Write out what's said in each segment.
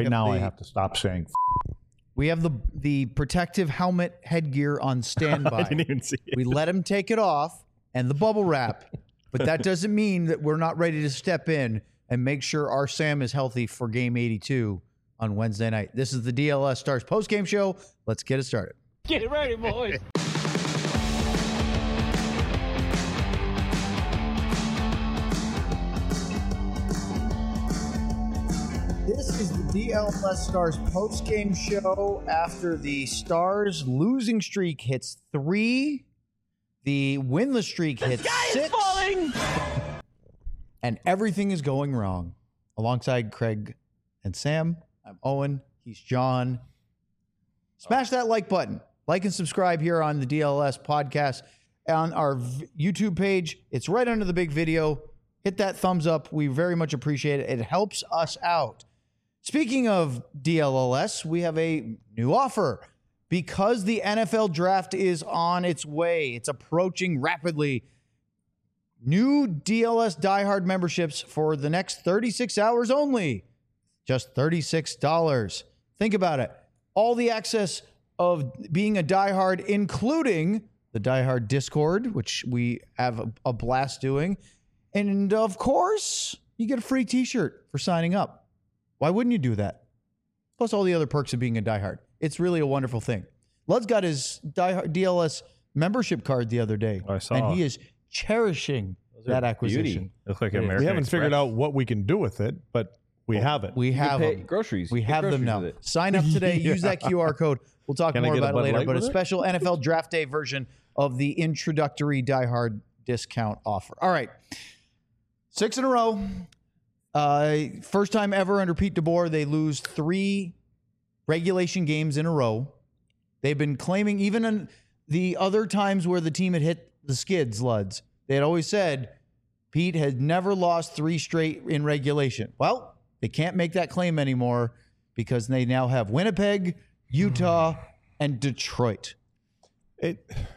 Right now, I have to stop saying. We have the protective helmet headgear on standby. I didn't even see it. We let him take it off and the bubble wrap, but that doesn't mean that we're not ready to step in and make sure our Sam is healthy for Game 82 on Wednesday night. This is the DLS Stars postgame show. Let's get it started. Get ready, boys. This is the DLS Stars post-game show after the Stars losing streak hits 3, the winless streak hits 6, and everything is going wrong. Alongside Craig and Sam, I'm Owen. He's John. Smash that like button. Like and subscribe here on the DLS podcast on our YouTube page. It's right under the big video. Hit that thumbs up. We very much appreciate it. It helps us out. Speaking of DLLS, we have a new offer. Because the NFL draft is on its way, it's approaching rapidly. New DLS diehard memberships for the next 36 hours only. Just $36. Think about it. All the access of being a diehard, including the diehard Discord, which we have a blast doing. And of course, you get a free t-shirt for signing up. Why wouldn't you do that? Plus all the other perks of being a diehard. It's really a wonderful thing. Lud's got his DLS membership card the other day. I saw. And he is cherishing that acquisition. Looks like American We haven't Express. figured out what we can do with it, but we have it. We have pay them. groceries. We You get have them groceries now. with it. Sign up today. Use that QR code. We'll talk Can I more get a about it Bud later. Light But a with it? special NFL Draft Day version of the introductory diehard discount offer. All right. 6 in a row. First time ever under Pete DeBoer, they lose 3 regulation games in a row. They've been claiming, even in the other times where the team had hit the skids, Luds, they had always said Pete had never lost 3 straight in regulation. Well, they can't make that claim anymore because they now have Winnipeg, Utah, and Detroit. The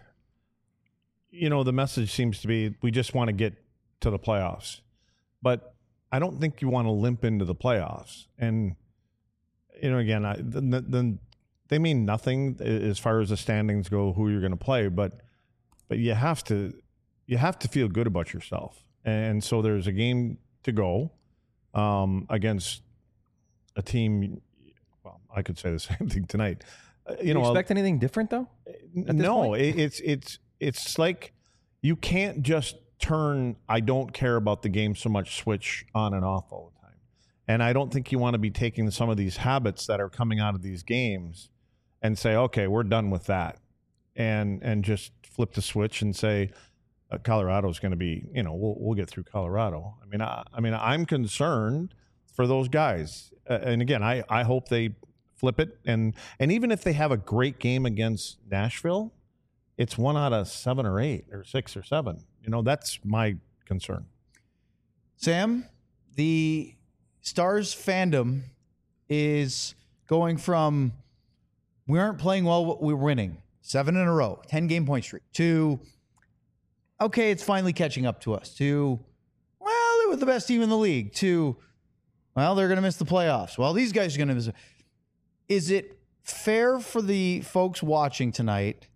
message seems to be we just want to get to the playoffs. But I don't think you want to limp into the playoffs. And, again, they mean nothing as far as the standings go, who you're going to play. But you have to feel good about yourself. And so there's a game to go against a team. Well, I could say the same thing tonight. You expect anything different though? No, it's like you can't just turn I don't care about the game so much switch on and off all the time. And I don't think you want to be taking some of these habits that are coming out of these games and say, okay, we're done with that. And just flip the switch and say Colorado's going to be, we'll get through Colorado. I mean, I'm concerned for those guys. And again, I hope they flip it. And even if they have a great game against Nashville, it's 1 out of 7 or 8 or 6 or 7. That's my concern. Sam, the Stars fandom is going from we aren't playing well, but we're winning 7 in a row, 10-game point streak, to okay, it's finally catching up to us, to well, they were the best team in the league, to well, they're going to miss the playoffs. Well, these guys are going to miss. Is it fair for the folks watching tonight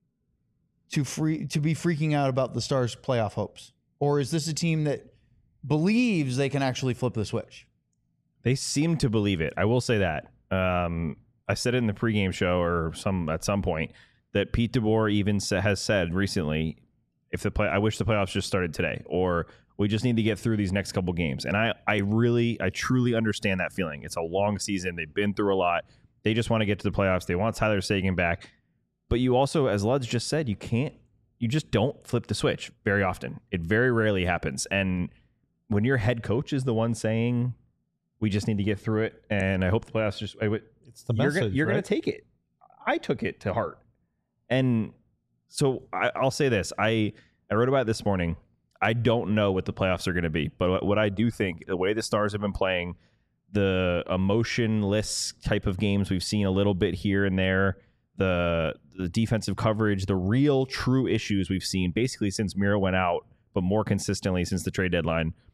to be freaking out about the Stars' playoff hopes? Or is this a team that believes they can actually flip the switch? They seem to believe it. I will say that. I said it in the pregame show or at some point that Pete DeBoer even has said recently, I wish the playoffs just started today, or we just need to get through these next couple games. And I truly understand that feeling. It's a long season. They've been through a lot. They just want to get to the playoffs. They want Tyler Seguin back. But you also, as Luds just said, you just don't flip the switch very often. It very rarely happens. And when your head coach is the one saying, we just need to get through it, and I hope the playoffs It's the message. You're going to take it. I took it to heart. And so I'll say this. I wrote about it this morning. I don't know what the playoffs are going to be, but what I do think, the way the Stars have been playing, the emotionless type of games we've seen a little bit here and there, the defensive coverage, the real true issues we've seen basically since Miro went out, but more consistently since the trade deadline.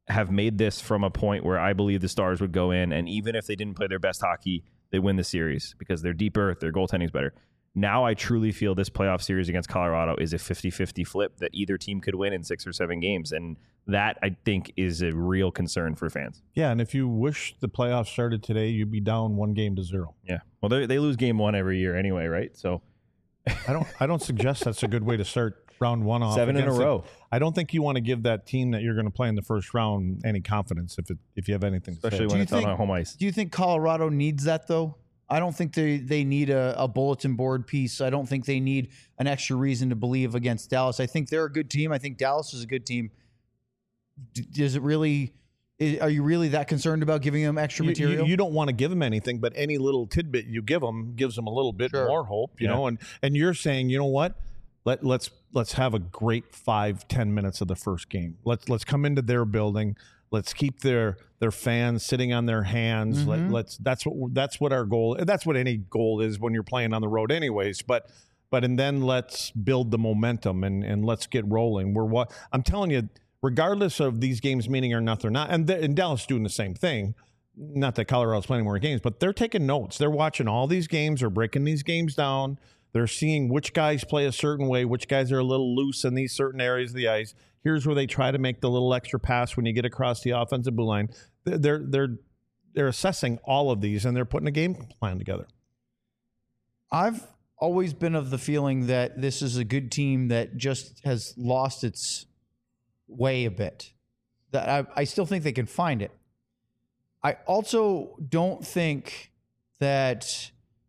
have made this from a point where I believe the Stars would go in, and even if they didn't play their best hockey, they win the series because they're deeper, their goaltending's better. Now I truly feel this playoff series against Colorado is a 50-50 flip that either team could win in 6 or 7 games. And that, I think, is a real concern for fans. Yeah, and if you wish the playoffs started today, you'd be down 1-0. Yeah. Well, they lose game 1 every year anyway, right? So I don't suggest that's a good way to start round 1 off. 7 in a row. I don't think you want to give that team that you're going to play in the first round any confidence if you have anything especially to say. when it's on home ice. Do you think Colorado needs that, though? I don't think they need a bulletin board piece. I don't think they need an extra reason to believe against Dallas. I think they're a good team. I think Dallas is a good team. Does it really? Are you really that concerned about giving them extra material? You don't want to give them anything, but any little tidbit you give them gives them a little bit more hope, you know. And you're saying, you know what? Let's have a great 5-10 minutes of the first game. Let's come into their building. Let's keep their fans sitting on their hands. Mm-hmm. That's what our goal. That's what any goal is when you're playing on the road, anyways. And then let's build the momentum and let's get rolling. I'm telling you, regardless of these games meaning or not, they're not. And Dallas doing the same thing. Not that Colorado's playing more games, but they're taking notes. They're watching all these games. They're breaking these games down. They're seeing which guys play a certain way, which guys are a little loose in these certain areas of the ice. Here's where they try to make the little extra pass when you get across the offensive blue line. They're assessing all of these, and they're putting a game plan together. I've always been of the feeling that this is a good team that just has lost its way a bit. That I still think they can find it. I also don't think that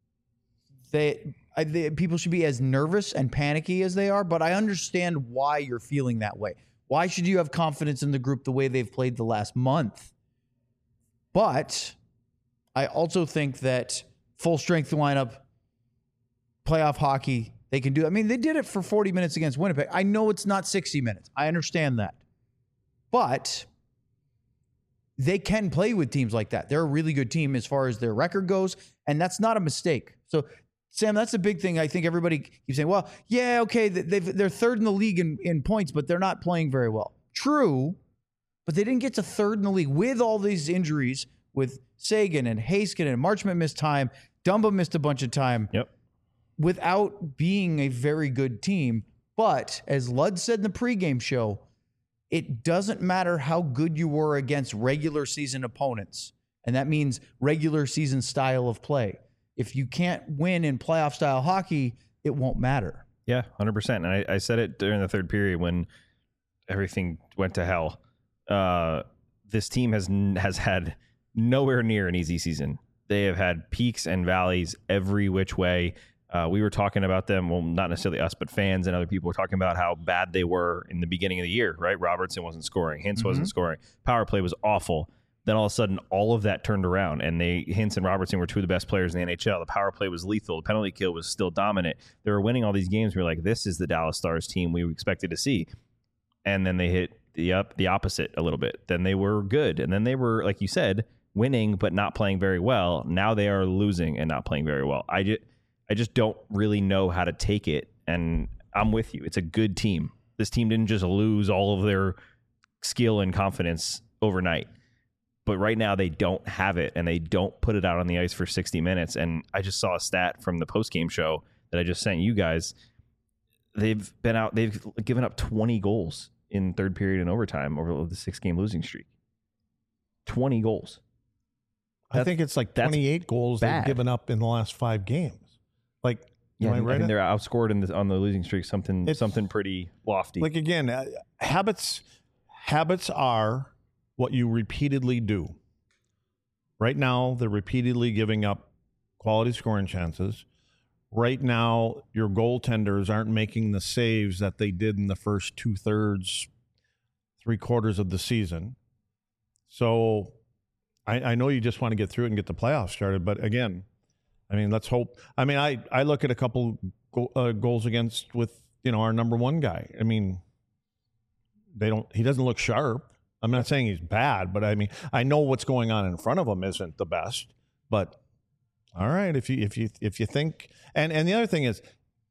people should be as nervous and panicky as they are, but I understand why you're feeling that way. Why should you have confidence in the group the way they've played the last month? But I also think that full strength lineup, playoff hockey, they can do. I mean, they did it for 40 minutes against Winnipeg. I know it's not 60 minutes. I understand that. But they can play with teams like that. They're a really good team as far as their record goes, and that's not a mistake. So, Sam, that's a big thing. I think everybody keeps saying, well, yeah, okay, they're third in the league in points, but they're not playing very well. True, but they didn't get to third in the league with all these injuries with Sagan and Heiskanen and Marchment missed time. Dumba missed a bunch of time. Yep. Without being a very good team. But as Ludd said in the pregame show, it doesn't matter how good you were against regular season opponents. And that means regular season style of play. If you can't win in playoff style hockey, it won't matter. Yeah, 100%. And I said it during the third period when everything went to hell. This team has had nowhere near an easy season. They have had peaks and valleys every which way. We were talking about them, well, not necessarily us, but fans and other people were talking about how bad they were in the beginning of the year, right? Robertson wasn't scoring. Hintz wasn't scoring. Power play was awful. Then all of a sudden, all of that turned around, and Hintz and Robertson were two of the best players in the NHL. The power play was lethal. The penalty kill was still dominant. They were winning all these games. We were like, this is the Dallas Stars team we expected to see. And then they hit the opposite a little bit. Then they were good. And then they were, like you said, winning but not playing very well. Now they are losing and not playing very well. I just don't really know how to take it. And I'm with you. It's a good team. This team didn't just lose all of their skill and confidence overnight. But right now they don't have it, and they don't put it out on the ice for 60 minutes. And I just saw a stat from the postgame show that I just sent you guys. They've given up 20 goals in third period and overtime over the 6-game losing streak. 20 goals. I think it's like 28 goals they've given up in the last 5 games. Like, yeah, am I right? I mean, they're outscored on the losing streak, something pretty lofty. Like, again, habits are what you repeatedly do. Right now, they're repeatedly giving up quality scoring chances. Right now, your goaltenders aren't making the saves that they did in the first 2/3, 3/4 of the season. So I know you just want to get through it and get the playoffs started. But again, I mean, let's hope. I mean, I look at a couple goals against with, our number one guy. I mean, he doesn't look sharp. I'm not saying he's bad, but I mean, I know what's going on in front of him isn't the best. But all right, if you think, and the other thing is,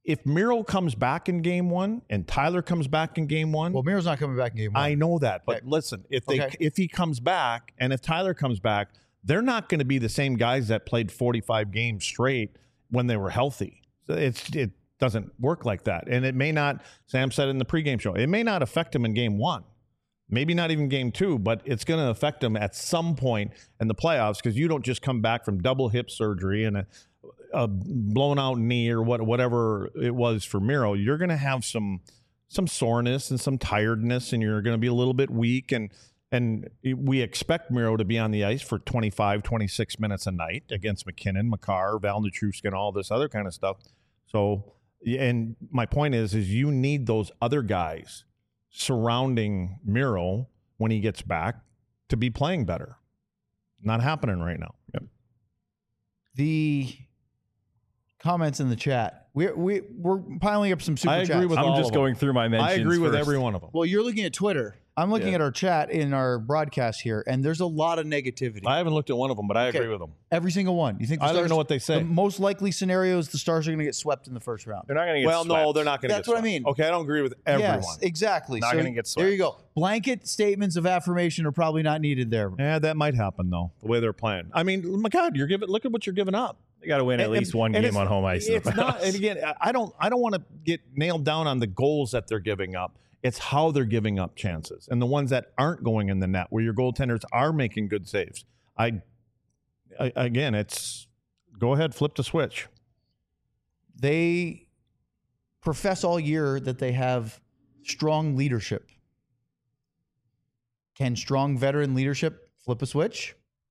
if Miro comes back in game one and Tyler comes back in game one, Well, Miro's not coming back in game one. I know that, but Okay. listen, Okay. if he comes back and if Tyler comes back, they're not going to be the same guys that played 45 games straight when they were healthy. So it doesn't work like that, and it may not. Sam said in the pregame show, it may not affect him in game one, maybe not even game two, but it's going to affect him at some point in the playoffs because you don't just come back from double hip surgery and a blown out knee or whatever it was for Miro. You're going to have some soreness and some tiredness, and you're going to be a little bit weak. And we expect Miro to be on the ice for 25, 26 minutes a night against McKinnon, Makar, Val Nichushkin, all this other kind of stuff. So, and my point is you need those other guys surrounding Miro when he gets back to be playing better. Not happening right now. Yep. The comments in the chat. We're piling up some super I chats. agree with all I'm of just them. going through my mentions. I agree with first. every one of them. Well, you're looking at Twitter. I'm looking at our chat in our broadcast here, and there's a lot of negativity. I haven't looked at one of them, but I Okay. agree with them. Every single one. You think the I don't Stars, even know what they say. The most likely scenario is the Stars are going to get swept in the first round. They're not going to get Well, swept. no, they're not going to get That's what I swept. mean. Okay, I don't agree with everyone. Yes, exactly. Not So gonna get There you swept. go. Blanket statements of affirmation are probably not needed there. Yeah, that might happen though. The way they're playing. I mean, my God, look at what you're giving up. They got to win at least one game it's- on home ice. in the It's not. playoffs. And again, I don't want to get nailed down on the goals that they're giving up. It's how they're giving up chances and the ones that aren't going in the net, where your goaltenders are making good saves. Again, it's go ahead, flip the switch. They profess all year that they have strong leadership. Can strong veteran leadership flip a switch?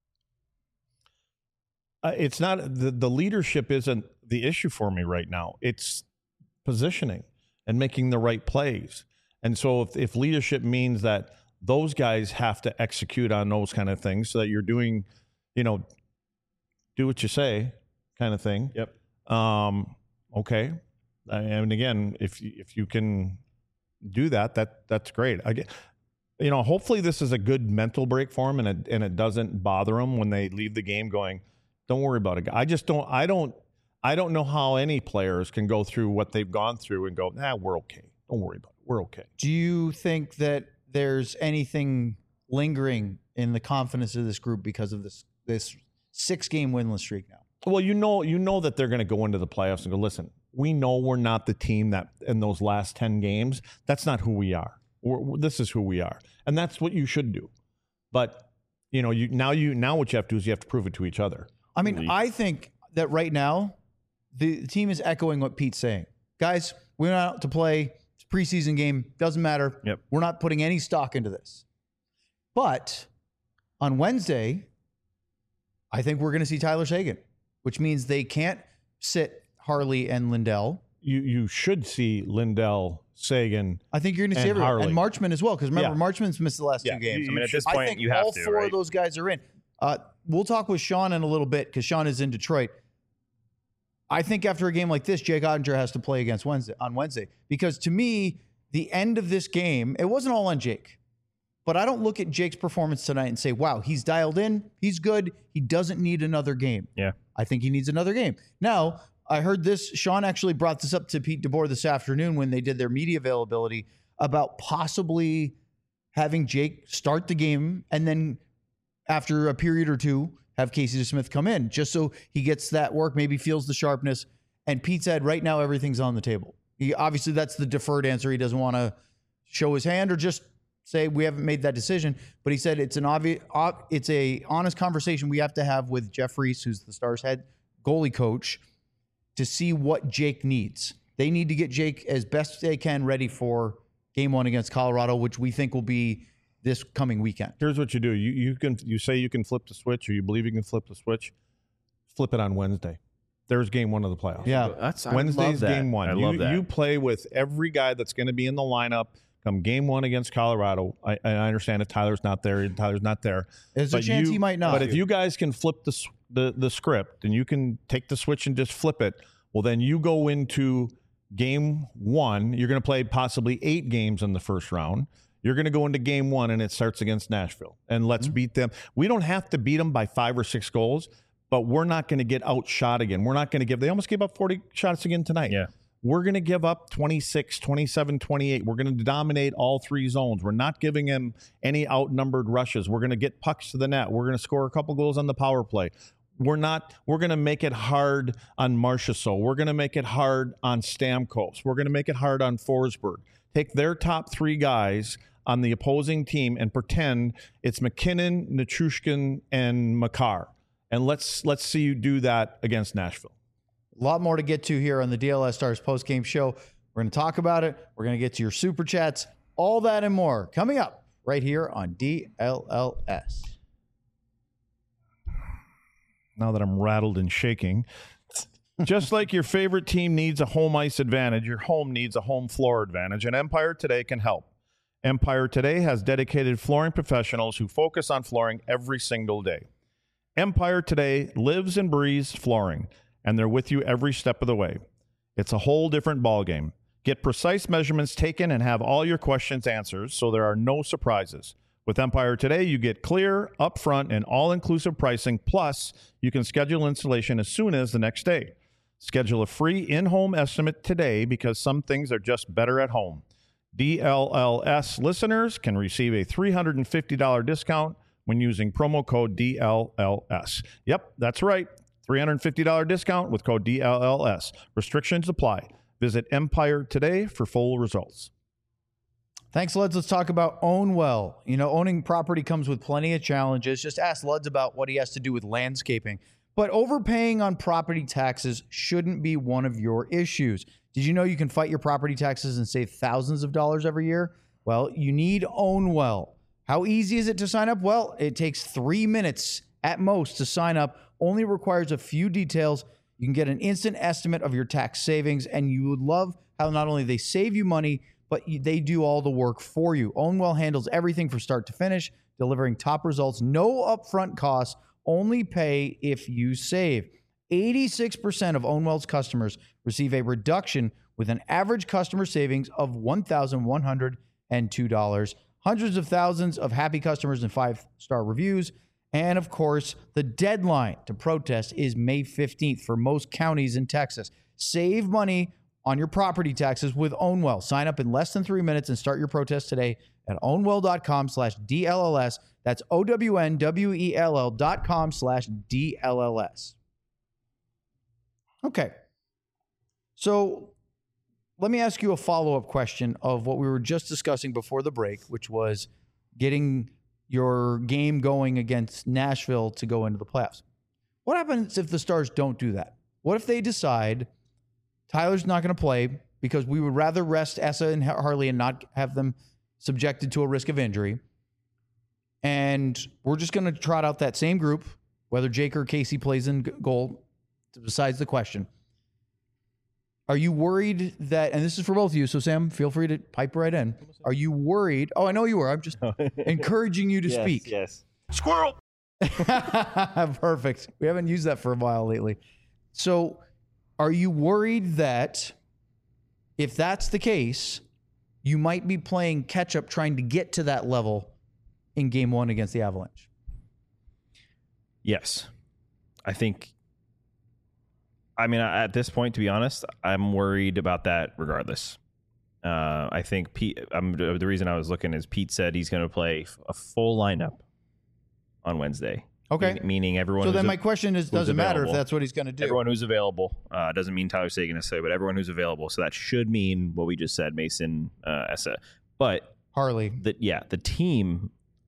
It's not the leadership isn't the issue for me right now. It's positioning and making the right plays. And so if leadership means that those guys have to execute on those kind of things so that you're doing, do what you say kind of thing. Yep. Okay. And again, if you can do that's great. Hopefully this is a good mental break for them and it doesn't bother them when they leave the game going, don't worry about it. I don't know how any players can go through what they've gone through and go, we're okay. Don't worry about it. We're okay. Do you think that there's anything lingering in the confidence of this group because of this 6-game winless streak now? Well, you know that they're going to go into the playoffs and go, listen, we know we're not the team that in those last 10 games, that's not who we are. This is who we are. And that's what you should do. But, now what you have to do is you have to prove it to each other. I mean, I think that right now the team is echoing what Pete's saying. Guys, we went out to play. It's a preseason game. Doesn't matter. Yep. We're not putting any stock into this. But on Wednesday, I think we're going to see Tyler Seguin, which means they can't sit Harley and Lindell. You should see Lindell, Seguin. I think you're going to see And everyone. Harley. And Marchman as well, because remember, Yeah. Marchman's missed the last Yeah. two games. I mean, at this I point, think you have all to, four right? of those guys are in. We'll talk with Sean in a little bit because Sean is in Detroit. I think after a game like this, Jake Ottinger has to play on Wednesday because to me, the end of this game, it wasn't all on Jake. But I don't look at Jake's performance tonight and say, wow, he's dialed in. He's good. He doesn't need another game. Yeah. I think he needs another game. Now, I heard this. Sean actually brought this up to Pete DeBoer this afternoon when they did their media availability about possibly having Jake start the game and then after a period or two, have Casey DeSmith come in just so he gets that work, maybe feels the sharpness. And Pete said, right now, everything's on the table. Obviously, that's the deferred answer. He doesn't want to show his hand or just say we haven't made that decision. But he said it's it's a honest conversation we have to have with Jeff Reese, who's the Stars head goalie coach, to see what Jake needs. They need to get Jake as best they can ready for game one against Colorado, which we think will be this coming weekend. Here's what you do. You say you can flip the switch, or you believe you can flip the switch. Flip it on Wednesday. There's game one of the playoffs. Yeah. Wednesday's game one. I love that. You play with every guy that's going to be in the lineup come game one against Colorado. I understand if Tyler's not there. Tyler's not there. There's a chance he might not. But if you guys can flip the script and you can take the switch and just flip it, well, then you go into game one. You're going to play possibly 8 games in the first round. You're going to go into game one, and it starts against Nashville. And let's beat them. We don't have to beat them by 5 or 6 goals, but we're not going to get outshot again. We're not going to they almost gave up 40 shots again tonight. Yeah. we're going to give up 26, 27, 28. We're going to dominate all three zones. We're not giving him any outnumbered rushes. We're going to get pucks to the net. We're going to score a couple goals on the power play. We're going to make it hard on Marchessault. We're going to make it hard on Stamkos. We're going to make it hard on Forsberg. Take their top three guys on the opposing team and pretend it's McKinnon, Nichushkin, and Makar. And let's see you do that against Nashville. A lot more to get to here on the DLS Stars postgame show. We're going to talk about it. We're going to get to your super chats, all that and more coming up right here on DLLS. Now that I'm rattled and shaking, just like your favorite team needs a home ice advantage, your home needs a home floor advantage, and Empire Today can help. Empire Today has dedicated flooring professionals who focus on flooring every single day. Empire Today lives and breathes flooring, and they're with you every step of the way. It's a whole different ballgame. Get precise measurements taken and have all your questions answered so there are no surprises. With Empire Today, you get clear, upfront, and all-inclusive pricing, plus you can schedule installation as soon as the next day. Schedule a free in-home estimate today because some things are just better at home. DLLS listeners can receive a $350 discount when using promo code DLLS. Yep, that's right. $350 discount with code DLLS. Restrictions apply. Visit Empire Today for full results. Thanks, Luds. Let's talk about Own Well. You know, owning property comes with plenty of challenges. Just ask Luds about what he has to do with landscaping. But overpaying on property taxes shouldn't be one of your issues. Did you know you can fight your property taxes and save thousands of dollars every year? Well, you need Own Well. How easy is it to sign up? Well, it takes 3 minutes at most to sign up. Only requires a few details. You can get an instant estimate of your tax savings, and you would love how not only they save you money, but they do all the work for you. Own Well handles everything from start to finish, delivering top results, no upfront costs, only pay if you save. 86% of Own Well's customers receive a reduction with an average customer savings of $1,102. Hundreds of thousands of happy customers and 5-star reviews. And of course, the deadline to protest is May 15th for most counties in Texas. Save money on your property taxes with Own Well. Sign up in less than 3 minutes and start your protest today at ownwell.com/DLLS. That's OWNWELL.com/DLLS. Okay. So let me ask you a follow-up question of what we were just discussing before the break, which was getting your game going against Nashville to go into the playoffs. What happens if the Stars don't do that? What if they decide Tyler's not going to play because we would rather rest Essa and Harley and not have them subjected to a risk of injury, and we're just going to trot out that same group, whether Jake or Casey plays in goal, besides the question. Are you worried that, and this is for both of you, so Sam, feel free to pipe right in. Are you worried? Oh, I know you were. I'm just encouraging you to speak. Yes. Squirrel! Perfect. We haven't used that for a while lately. So are you worried that if that's the case, you might be playing catch up trying to get to that level in game one against the Avalanche? Yes. At this point, to be honest, I'm worried about that regardless. I think Pete, the reason I was looking is Pete said he's going to play a full lineup on Wednesday. Okay. Meaning everyone. So then my question is, doesn't matter if that's what he's going to do. Everyone who's available. Doesn't mean Tyler Seguin necessarily, but everyone who's available. So that should mean what we just said, Mason, Essa. But Harley. The team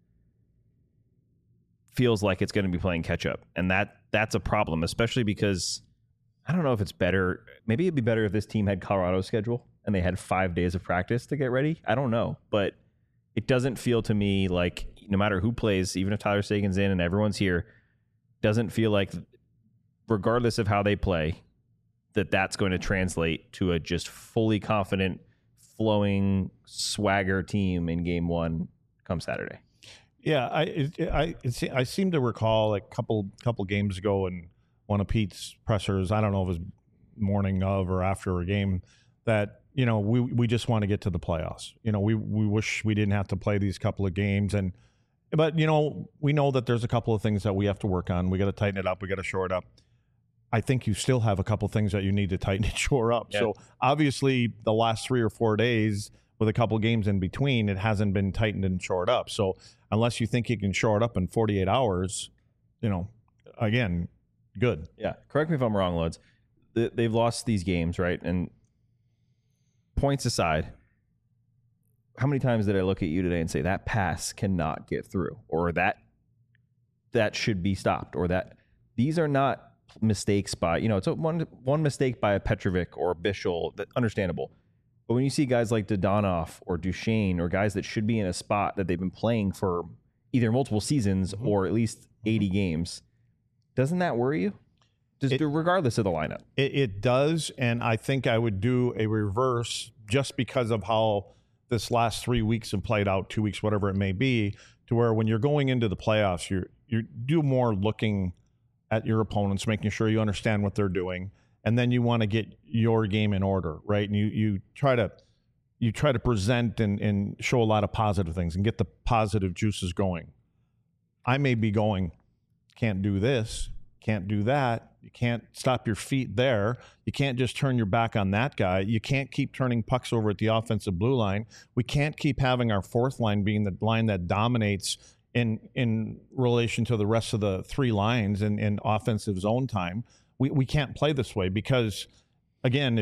feels like it's going to be playing catch up. And that's a problem, especially because I don't know if it's better. Maybe it'd be better if this team had Colorado's schedule and they had 5 days of practice to get ready. I don't know. But it doesn't feel to me like no matter who plays, even if Tyler Seguin's in and everyone's here, doesn't feel like, regardless of how they play, that's going to translate to a just fully confident, flowing swagger team in game one come Saturday. Yeah, I seem to recall a couple games ago in one of Pete's pressers, I don't know if it was morning of or after a game, that we just want to get to the playoffs. We wish we didn't have to play these couple of games, but we know that there's a couple of things that we have to work on. We got to tighten it up. We got to shore it up. I think you still have a couple things that you need to tighten and shore up. Yeah. So obviously the last 3 or 4 days with a couple games in between, it hasn't been tightened and shored up. So unless you think you can shore it up in 48 hours, again, good. Yeah. Correct me if I'm wrong, Loads. They've lost these games, right? And points aside, how many times did I look at you today and say that pass cannot get through, or that should be stopped, or that these are not mistakes by, it's one mistake by a Petrovic or a Bischel, that understandable. But when you see guys like Dodonov or Duchesne or guys that should be in a spot that they've been playing for either multiple seasons or at least 80 games, doesn't that worry you? Regardless of the lineup? It does, and I think I would do a reverse just because of how this last 3 weeks have played out, 2 weeks, whatever it may be, to where when you're going into the playoffs, you do more looking at your opponents, making sure you understand what they're doing, and then you want to get your game in order, right? And you try to present and show a lot of positive things and get the positive juices going. I may be going, can't do this, can't do that. You can't stop your feet there. You can't just turn your back on that guy. You can't keep turning pucks over at the offensive blue line. We can't keep having our fourth line being the line that dominates in relation to the rest of the 3 lines in offensive zone time. We can't play this way because, again,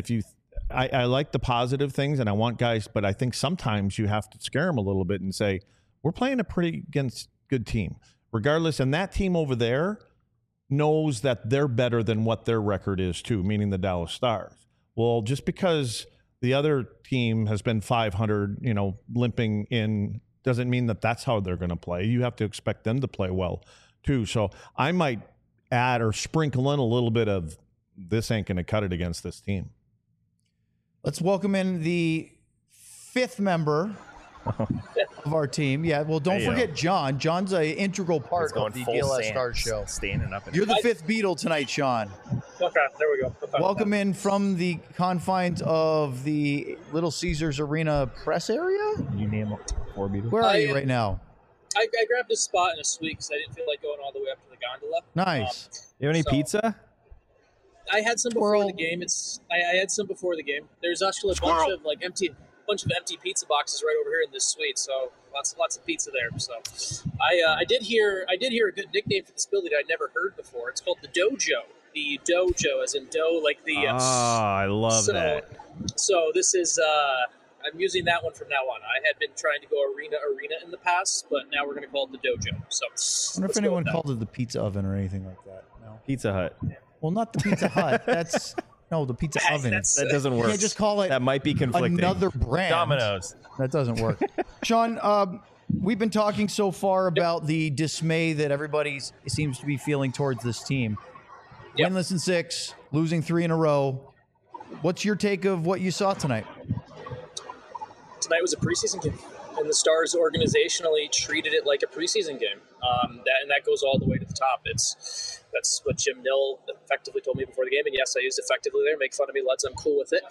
I like the positive things and I want guys, but I think sometimes you have to scare them a little bit and say, we're playing a pretty good team. Regardless, and that team over there knows that they're better than what their record is too, meaning the Dallas Stars. Well, just because the other team has been 500, limping in, doesn't mean that that's how they're going to play. You have to expect them to play well too. So I might add or sprinkle in a little bit of this ain't going to cut it against this team. Let's welcome in the 5th member of our team. Yeah, well, don't forget John. John's an integral part of the DLS Stars show. Standing up. You're the 5th Beatle tonight, Sean. Okay, there we go. Welcome in from the confines of the Little Caesars Arena press area. You name 4 Beatles. Where are you right now? I grabbed a spot in a suite because I didn't feel like going all the way up to the gondola. Nice. You have any so- pizza? I had some before the game. I had some before the game. There's actually a bunch of empty pizza boxes right over here in this suite. So lots of pizza there. So I did hear a good nickname for this building I'd never heard before. It's called the Dojo. The Dojo, as in dough, like the. I love that. So this is. I'm using that one from now on. I had been trying to go arena in the past, but now we're going to call it the Dojo. So I wonder if anyone called it the pizza oven or anything like that. No. Pizza Hut. Well, not the Pizza Hut. That's the pizza oven. That doesn't work. You can't just call it. That might be conflicting. Another brand. Domino's. That doesn't work. Sean, we've been talking so far about the dismay that everybody seems to be feeling towards this team. Yep. Winless in 6, losing 3 in a row. What's your take of what you saw tonight? Tonight was a preseason game, and the Stars organizationally treated it like a preseason game. That goes all the way to the top. That's what Jim Nill effectively told me before the game, and yes, I used effectively there. Make fun of me, lads. I'm cool with it.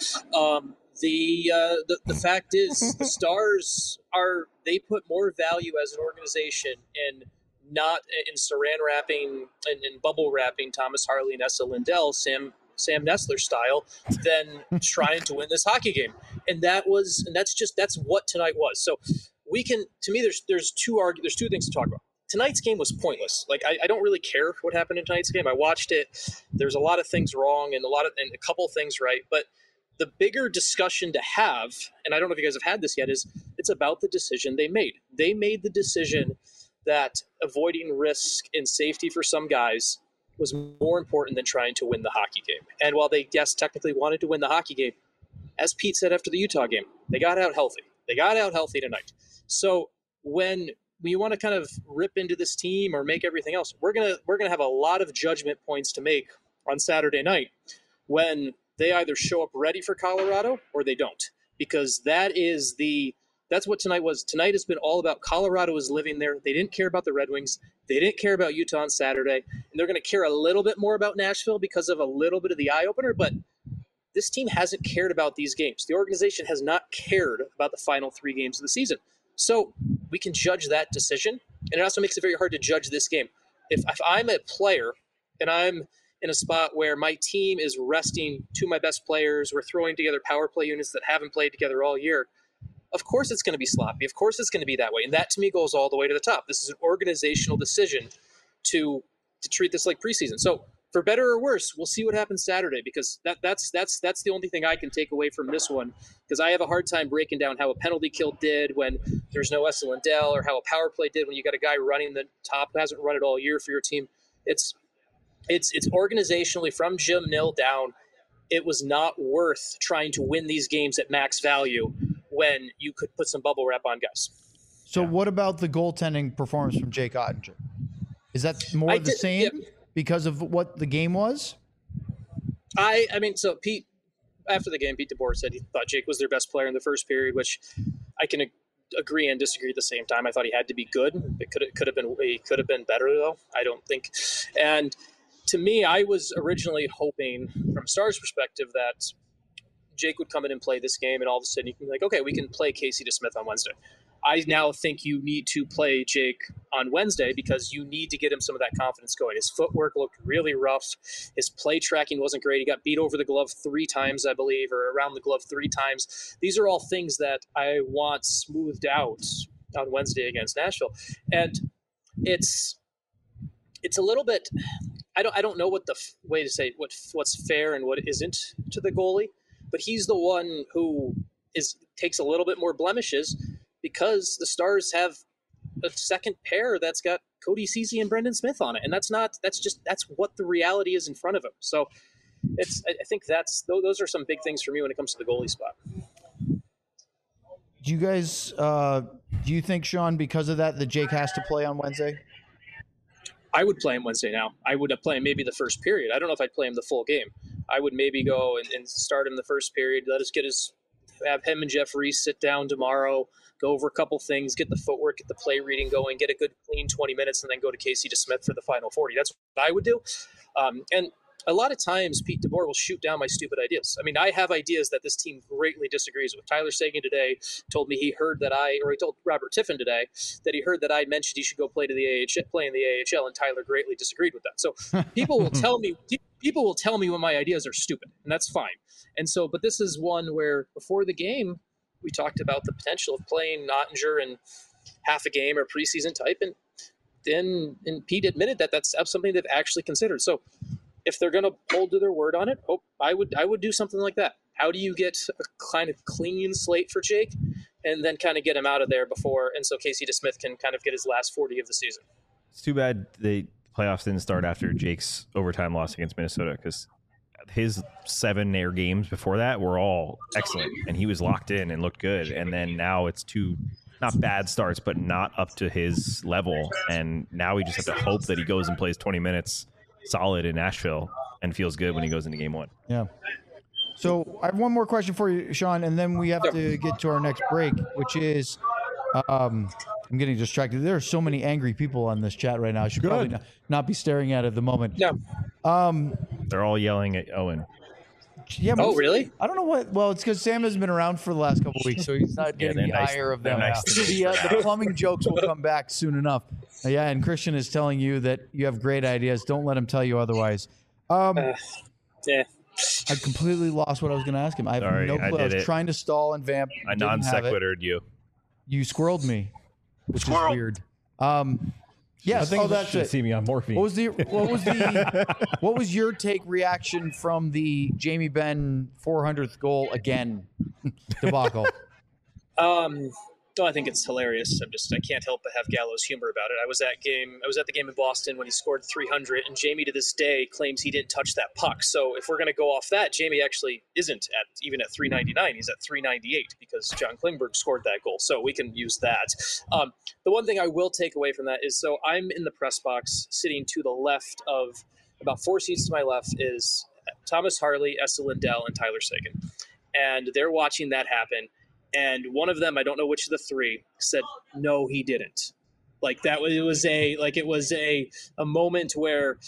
The fact is, the Stars they put more value as an organization in not in saran wrapping and in bubble wrapping Thomas Harley and Essa Lindell, Sam Nessler style, than trying to win this hockey game. And that's what tonight was. So there's two things to talk about. Tonight's game was pointless. Like I don't really care what happened in tonight's game. I watched it. There's a lot of things wrong and a couple things right, but the bigger discussion to have, and I don't know if you guys have had this yet, is it's about the decision they made. They made the decision that avoiding risk and safety for some guys was more important than trying to win the hockey game. And while they, yes, technically wanted to win the hockey game, as Pete said after the Utah game, they got out healthy. They got out healthy tonight. So when you want to kind of rip into this team or make everything else, we're gonna have a lot of judgment points to make on Saturday night when they either show up ready for Colorado or they don't, because that's what tonight was. Tonight has been all about Colorado is living there. They didn't care about the Red Wings. They didn't care about Utah on Saturday, and they're going to care a little bit more about Nashville because of a little bit of the eye opener. But this team hasn't cared about these games. The organization has not cared about the final 3 games of the season. So we can judge that decision, and it also makes it very hard to judge this game. If I'm a player and I'm in a spot where my team is resting two of my best players. We're throwing together power play units that haven't played together all year. Of course it's going to be sloppy. Of course it's going to be that way. And that to me goes all the way to the top. This is an organizational decision to treat this like preseason. So for better or worse, we'll see what happens Saturday, because that's the only thing I can take away from this one, because I have a hard time breaking down how a penalty kill did when there's no Esa Lindell, or how a power play did when you got a guy running the top who hasn't run it all year for your team. It's organizationally from Jim Nill down. It was not worth trying to win these games at max value when you could put some bubble wrap on guys. So what about the goaltending performance from Jake Ottinger? Is that more the same because of what the game was? I mean, so Pete, after the game, Pete DeBoer said he thought Jake was their best player in the first period, which I can agree and disagree at the same time. I thought he had to be good. He could have been better, though, I don't think. And to me, I was originally hoping, from Stars' perspective, that Jake would come in and play this game, and all of a sudden you can be like, okay, we can play Casey DeSmith on Wednesday. I now think you need to play Jake on Wednesday because you need to get him some of that confidence going. His footwork looked really rough. His play tracking wasn't great. He got beat over the glove 3 times, I believe, or around the glove 3 times. These are all things that I want smoothed out on Wednesday against Nashville. And it's a little bit, I don't know what the way to say what's fair and what isn't to the goalie, but he's the one who takes a little bit more blemishes, because the Stars have a second pair that's got Cody Ceci and Brendan Smith on it. And that's what the reality is in front of him. So I think those are some big things for me when it comes to the goalie spot. Do you guys, do you think, Sean, because of that Jake has to play on Wednesday? I would play him Wednesday now. I would play him maybe the first period. I don't know if I'd play him the full game. I would maybe go and start him the first period. Have him and Jeff Reese sit down tomorrow, go over a couple things, get the footwork, get the play reading going, get a good clean 20 minutes, and then go to Casey DeSmith for the final 40. That's what I would do. And a lot of times Pete DeBoer will shoot down my stupid ideas. I mean, I have ideas that this team greatly disagrees with. Tyler Seguin today told me he told Robert Tiffin today that he heard that I mentioned he should go play in the AHL, and Tyler greatly disagreed with that. So people will tell me when my ideas are stupid, and that's fine. And so, but this is one where before the game, we talked about the potential of playing Ottinger in half a game or preseason type, and Pete admitted that that's something they've actually considered. So if they're going to hold to their word on it, I would do something like that. How do you get a kind of clean slate for Jake, and then kind of get him out of there before, and so Casey DeSmith can kind of get his last 40 of the season? It's too bad the playoffs didn't start after Jake's overtime loss against Minnesota, because his 7 air games before that were all excellent, and he was locked in and looked good. And then now it's 2 not bad starts, but not up to his level. And now we just have to hope that he goes and plays 20 minutes solid in Nashville and feels good when he goes into game 1. Yeah. So I have one more question for you, Sean, and then we have to get to our next break, which is, I'm getting distracted. There are so many angry people on this chat right now. I should probably not be staring at it at the moment. Yeah. They're all yelling at Owen. Yeah. Really? I don't know what. Well, it's because Sam hasn't been around for the last couple of weeks, so he's not getting the ire of them. Nice The plumbing jokes will come back soon enough. Yeah, and Christian is telling you that you have great ideas. Don't let him tell you otherwise. Yeah. I completely lost what I was going to ask him. I have no clue. I was trying to stall and vamp. I non-sequitured you. You squirreled me, which is weird. Yes. I think that's it. See me on morphine. What was your reaction from the Jamie Benn 400th goal again debacle? I think it's hilarious. I can't help but have gallows humor about it. I was at the game in Boston when he scored 300, and Jamie to this day claims he didn't touch that puck. So if we're going to go off that, Jamie actually isn't even at 399. He's at 398 because John Klingberg scored that goal. So we can use that. The one thing I will take away from that is, so I'm in the press box sitting to the left of, about 4 seats to my left is Thomas Harley, Esa Lindell, and Tyler Seguin. And they're watching that happen. And one of them, I don't know which of the 3, said, "No, he didn't." Like that, it was a moment where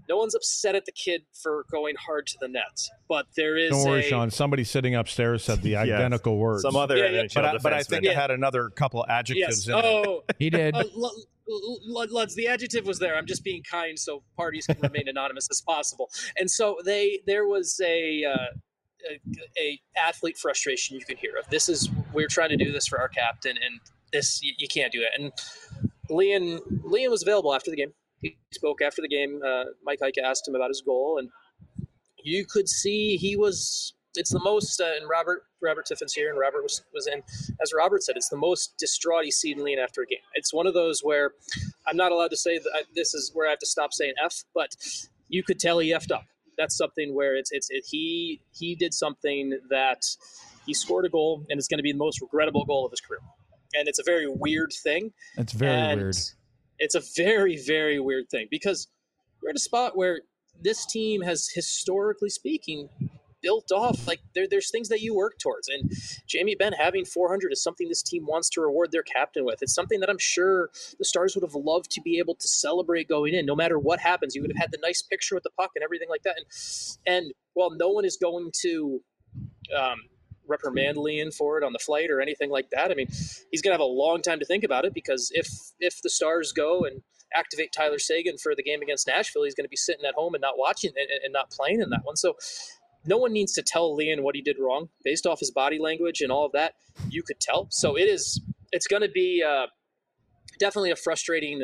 no one's upset at the kid for going hard to the net, but there is. Don't worry, Sean. Somebody sitting upstairs said the identical words. Some other NHL but I think I had another couple adjectives in Oh, he did. Luds, the adjective was there. I'm just being kind so parties can remain anonymous as possible. And so there was a athlete frustration you can hear of. We're trying to do this for our captain, and this you can't do it. And Lian was available after the game. He spoke after the game. Mike Heike asked him about his goal, and you could see it's the most, and Robert Tiffin's here, and Robert was in. As Robert said, it's the most distraught he's seen Lian after a game. It's one of those where I'm not allowed to say that this is where I have to stop saying F, but you could tell he effed up. That's something where he did something that he scored a goal, and it's going to be the most regrettable goal of his career. And it's a very weird thing. It's very weird. It's a very, very weird thing because we're at a spot where this team has, historically speaking, built off. Like there's things that you work towards, and Jamie Benn having 400 is something this team wants to reward their captain with. It's something that I'm sure the Stars would have loved to be able to celebrate going in. No matter what happens, you would have had the nice picture with the puck and everything like that. And while no one is going to reprimand Lian for it on the flight or anything like that, I mean, he's going to have a long time to think about it, because if the Stars go and activate Tyler Seguin for the game against Nashville, he's going to be sitting at home and not watching and not playing in that one. So no one needs to tell Lian what he did wrong. Based off his body language and all of that, you could tell. So it's going to be definitely a frustrating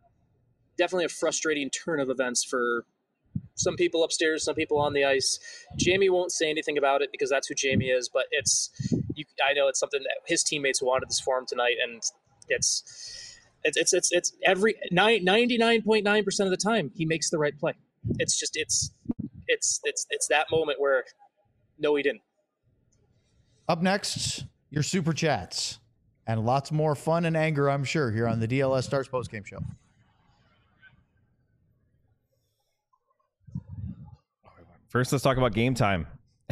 turn of events for some people upstairs, some people on the ice. Jamie won't say anything about it because that's who Jamie is, but I know it's something that his teammates wanted this for him tonight, and it's every 99.9% of the time he makes the right play. It's just it's that moment where no, he didn't. Up next, your super chats and lots more fun and anger, I'm sure, here on the DLS Stars postgame show. First, let's talk about game time.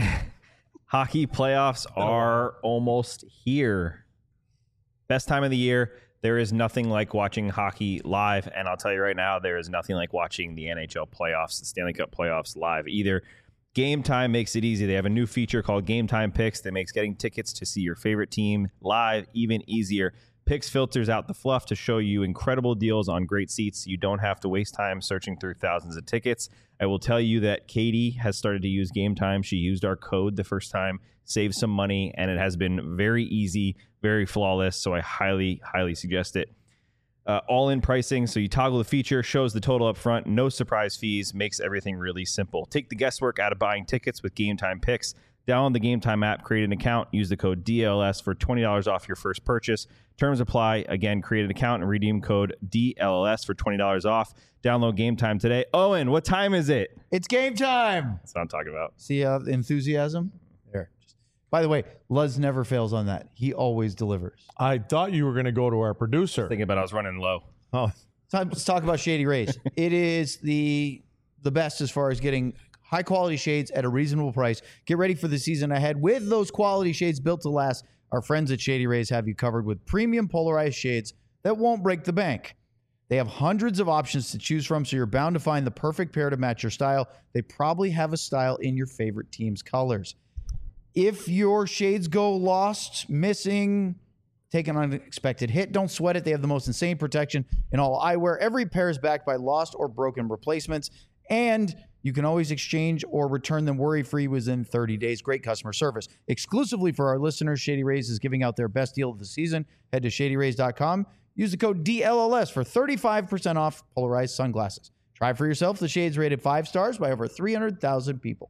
Hockey playoffs are almost here. Best time of the year. There is nothing like watching hockey live, and I'll tell you right now, there is nothing like watching the NHL playoffs, the Stanley Cup playoffs live either. Game Time makes it easy. They have a new feature called Game Time Picks that makes getting tickets to see your favorite team live even easier. Picks filters out the fluff to show you incredible deals on great seats. You don't have to waste time searching through thousands of tickets. I will tell you that Katie has started to use Game Time. She used our code the first time, saved some money, and it has been very easy, very flawless. So I highly, highly suggest it. All-in pricing, so you toggle the feature, shows the total up front, no surprise fees, makes everything really simple. Take the guesswork out of buying tickets with Game Time Picks. Download the Game Time app, create an account, use the code DLS for $20 off your first purchase. Terms apply. Again, create an account and redeem code DLS for $20 off. Download Game Time today. Owen, what time is it? It's game time. That's what I'm talking about. See the enthusiasm? There. By the way, Luz never fails on that. He always delivers. I thought you were going to go to our producer. Thinking about I was running low. Oh, Let's talk about Shady Rays. It is the best as far as getting high quality shades at a reasonable price. Get ready for the season ahead with those quality shades built to last. Our friends at Shady Rays have you covered with premium polarized shades that won't break the bank. They have hundreds of options to choose from, so you're bound to find the perfect pair to match your style. They probably have a style in your favorite team's colors. If your shades go lost, missing, take an unexpected hit, don't sweat it. They have the most insane protection in all eyewear. Every pair is backed by lost or broken replacements, and you can always exchange or return them worry-free within 30 days. Great customer service. Exclusively for our listeners, Shady Rays is giving out their best deal of the season. Head to shadyrays.com. Use the code DLLS for 35% off polarized sunglasses. Try for yourself the shades rated 5 stars by over 300,000 people.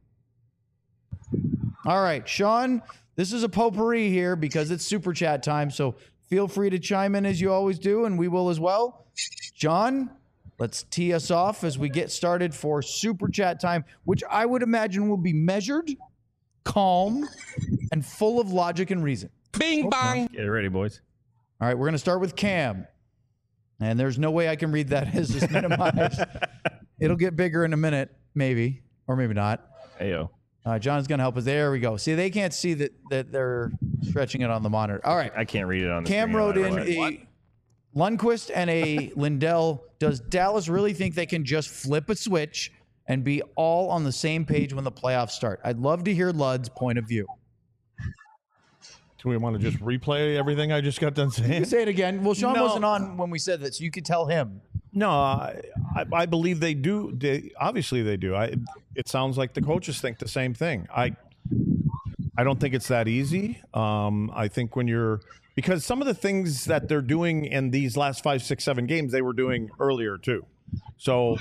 All right, Sean, this is a potpourri here because it's super chat time, so feel free to chime in as you always do, and we will as well. John, let's tee us off as we get started for super chat time, which I would imagine will be measured, calm, and full of logic and reason. Bing bang. Get ready, boys. All right, we're going to start with Cam. And there's no way I can read that as it's minimized. It'll get bigger in a minute, maybe, or maybe not. Ayo. John's going to help us. There we go. See, they can't see that they're stretching it on the monitor. All right. I can't read it on the Cam screen. wrote in a Lundqvist and a Lindell. Does Dallas really think they can just flip a switch and be all on the same page when the playoffs start. I'd love to hear Lud's point of view. Do we want to just replay everything I just got done You saying? can say it again. Well, Sean No. wasn't on when we said that, so you could tell him. No, I believe they do. Obviously, they do. It sounds like the coaches think the same thing. I don't think it's that easy. I think because some of the things that they're doing in these last 5, 6, 7 games, they were doing earlier too. So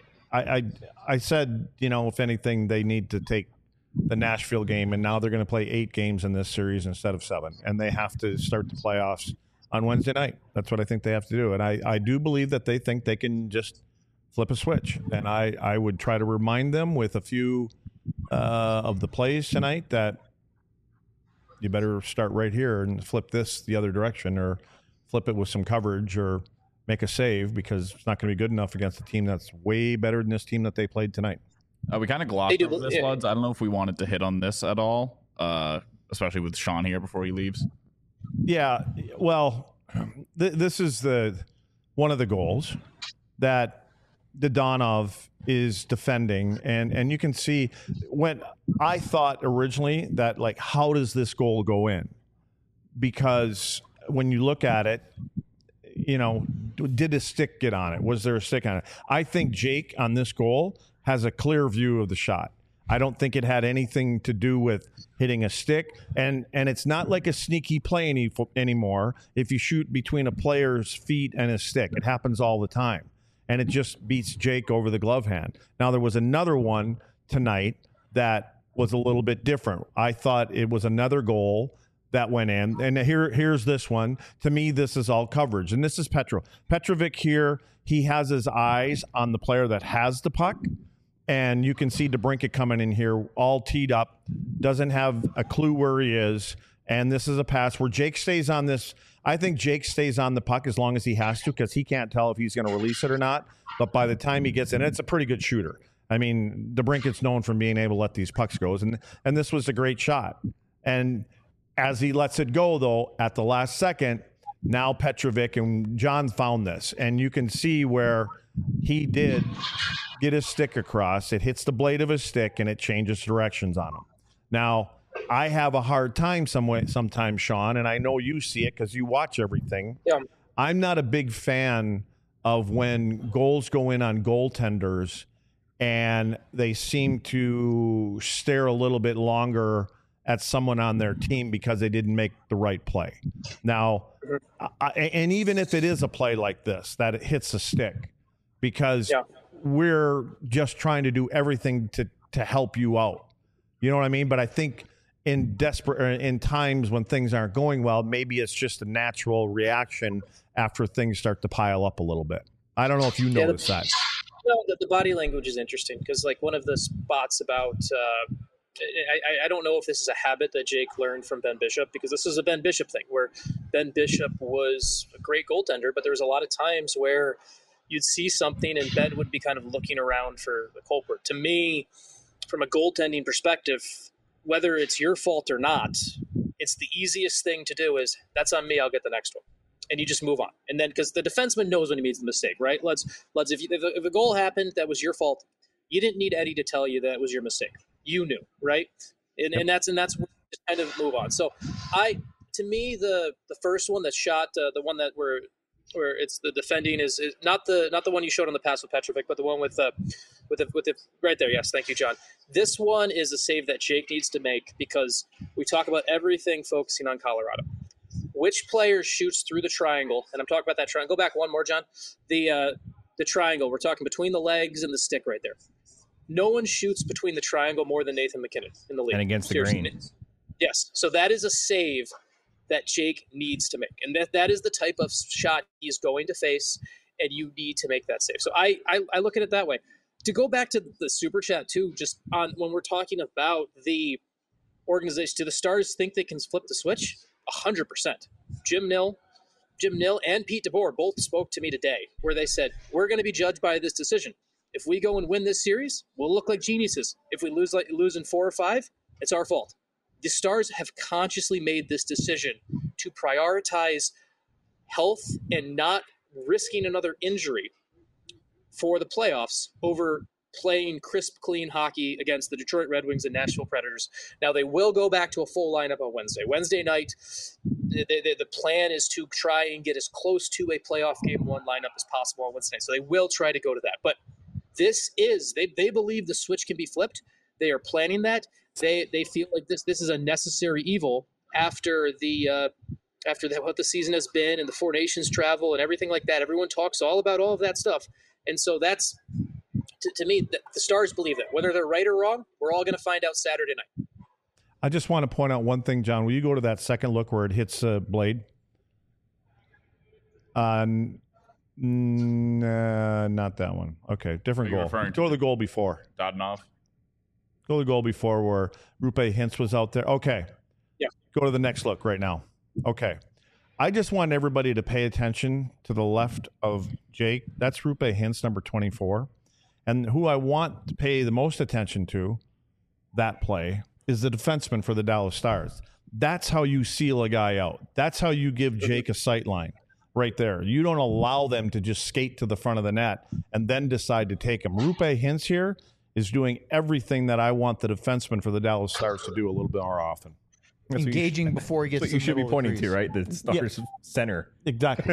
I said, if anything, they need to take the Nashville game, and now they're going to play 8 games in this series instead of 7, and they have to start the playoffs on Wednesday night. That's what I think they have to do. And I do believe that they think they can just flip a switch. And I would try to remind them with a few of the plays tonight that you better start right here and flip this the other direction, or flip it with some coverage, or make a save, because it's not going to be good enough against a team that's way better than this team that they played tonight. We kind of glossed over this, Luds. I don't know if we wanted to hit on this at all, especially with Sean here before he leaves. Yeah, well, this is one of the goals that Dadonov is defending, and you can see when I thought originally that, like, how does this goal go in? Because when you look at it, did a stick get on it? Was there a stick on it? I think Jake on this goal has a clear view of the shot. I don't think it had anything to do with hitting a stick, and it's not like a sneaky play anymore. If you shoot between a player's feet and his stick, it happens all the time, and it just beats Jake over the glove hand. Now, there was another one tonight that was a little bit different. I thought it was another goal that went in, and here's this one. To me, this is all coverage, and this is Petrovic here. He has his eyes on the player that has the puck. And you can see DeBrincat coming in here all teed up, doesn't have a clue where he is. And this is a pass where Jake stays on this. I think Jake stays on the puck as long as he has to, because he can't tell if he's going to release it or not. But by the time he gets in, it's a pretty good shooter. I mean, DeBrincat's known for being able to let these pucks go. And this was a great shot. And as he lets it go, though, at the last second, now Petrovic and John found this. And you can see where he did get his stick across. It hits the blade of his stick, and it changes directions on him. Now, I have a hard time sometimes, Sean, and I know you see it because you watch everything. Yeah. I'm not a big fan of when goals go in on goaltenders and they seem to stare a little bit longer at someone on their team because they didn't make the right play. Now, and even if it is a play like this, that it hits a stick, because we're just trying to do everything to help you out. You know what I mean? But I think in times when things aren't going well, maybe it's just a natural reaction after things start to pile up a little bit. I don't know if you notice that. No, the body language is interesting, because like one of the spots about I don't know if this is a habit that Jake learned from Ben Bishop, because this is a Ben Bishop thing where Ben Bishop was a great goaltender, but there was a lot of times where you'd see something and Ben would be kind of looking around for the culprit. To me, from a goaltending perspective, whether it's your fault or not, it's the easiest thing to do is, that's on me, I'll get the next one. And you just move on. And then, because the defenseman knows when he makes the mistake, right? Let's if a goal happened that was your fault, you didn't need Eddie to tell you that it was your mistake. You knew, right? And that's where you just kind of move on. So to me, the first one that shot, the one that where it's the defending is not the one you showed on the pass with Petrovic, but the one with the right there. Yes, thank you, John. This one is a save that Jake needs to make, because we talk about everything focusing on Colorado. Which player shoots through the triangle? And I'm talking about that triangle. Go back one more, John. The triangle. We're talking between the legs and the stick right there. No one shoots between the triangle more than Nathan MacKinnon in the league. And against the grain. Yes. So that is a save that Jake needs to make. And that is the type of shot he's going to face, and you need to make that save. So I look at it that way. To go back to the Super Chat, too, just on when we're talking about the organization, do the Stars think they can flip the switch? 100%. Jim Nill and Pete DeBoer both spoke to me today, where they said, we're going to be judged by this decision. If we go and win this series, we'll look like geniuses. If we lose in 4 or 5, it's our fault. The Stars have consciously made this decision to prioritize health and not risking another injury for the playoffs over playing crisp, clean hockey against the Detroit Red Wings and Nashville Predators. Now, they will go back to a full lineup on Wednesday. Wednesday night, the plan is to try and get as close to a playoff Game 1 lineup as possible on Wednesday. So they will try to go to that. But this is, they believe the switch can be flipped. They are planning that. They feel like this is a necessary evil after what the season has been and the Four Nations travel and everything like that. Everyone talks all about all of that stuff. And so that's, to me, the Stars believe that. Whether they're right or wrong, we're all going to find out Saturday night. I just want to point out one thing, John. Will you go to that second look where it hits Blade? Not that one. Okay, different goal. Go to the goal before. Dadonov. Go to the goal before where Rupe Hintz was out there. Okay. Yeah. Go to the next look right now. Okay. I just want everybody to pay attention to the left of Jake. That's Rupe Hintz, number 24. And who I want to pay the most attention to, that play, is the defenseman for the Dallas Stars. That's how you seal a guy out. That's how you give Jake a sight line right there. You don't allow them to just skate to the front of the net and then decide to take him. Rupe Hintz here is doing everything that I want the defenseman for the Dallas Stars to do a little bit more often. Engaging before he gets to the you should be middle of pointing the to, crease. right? The Stars center. Exactly.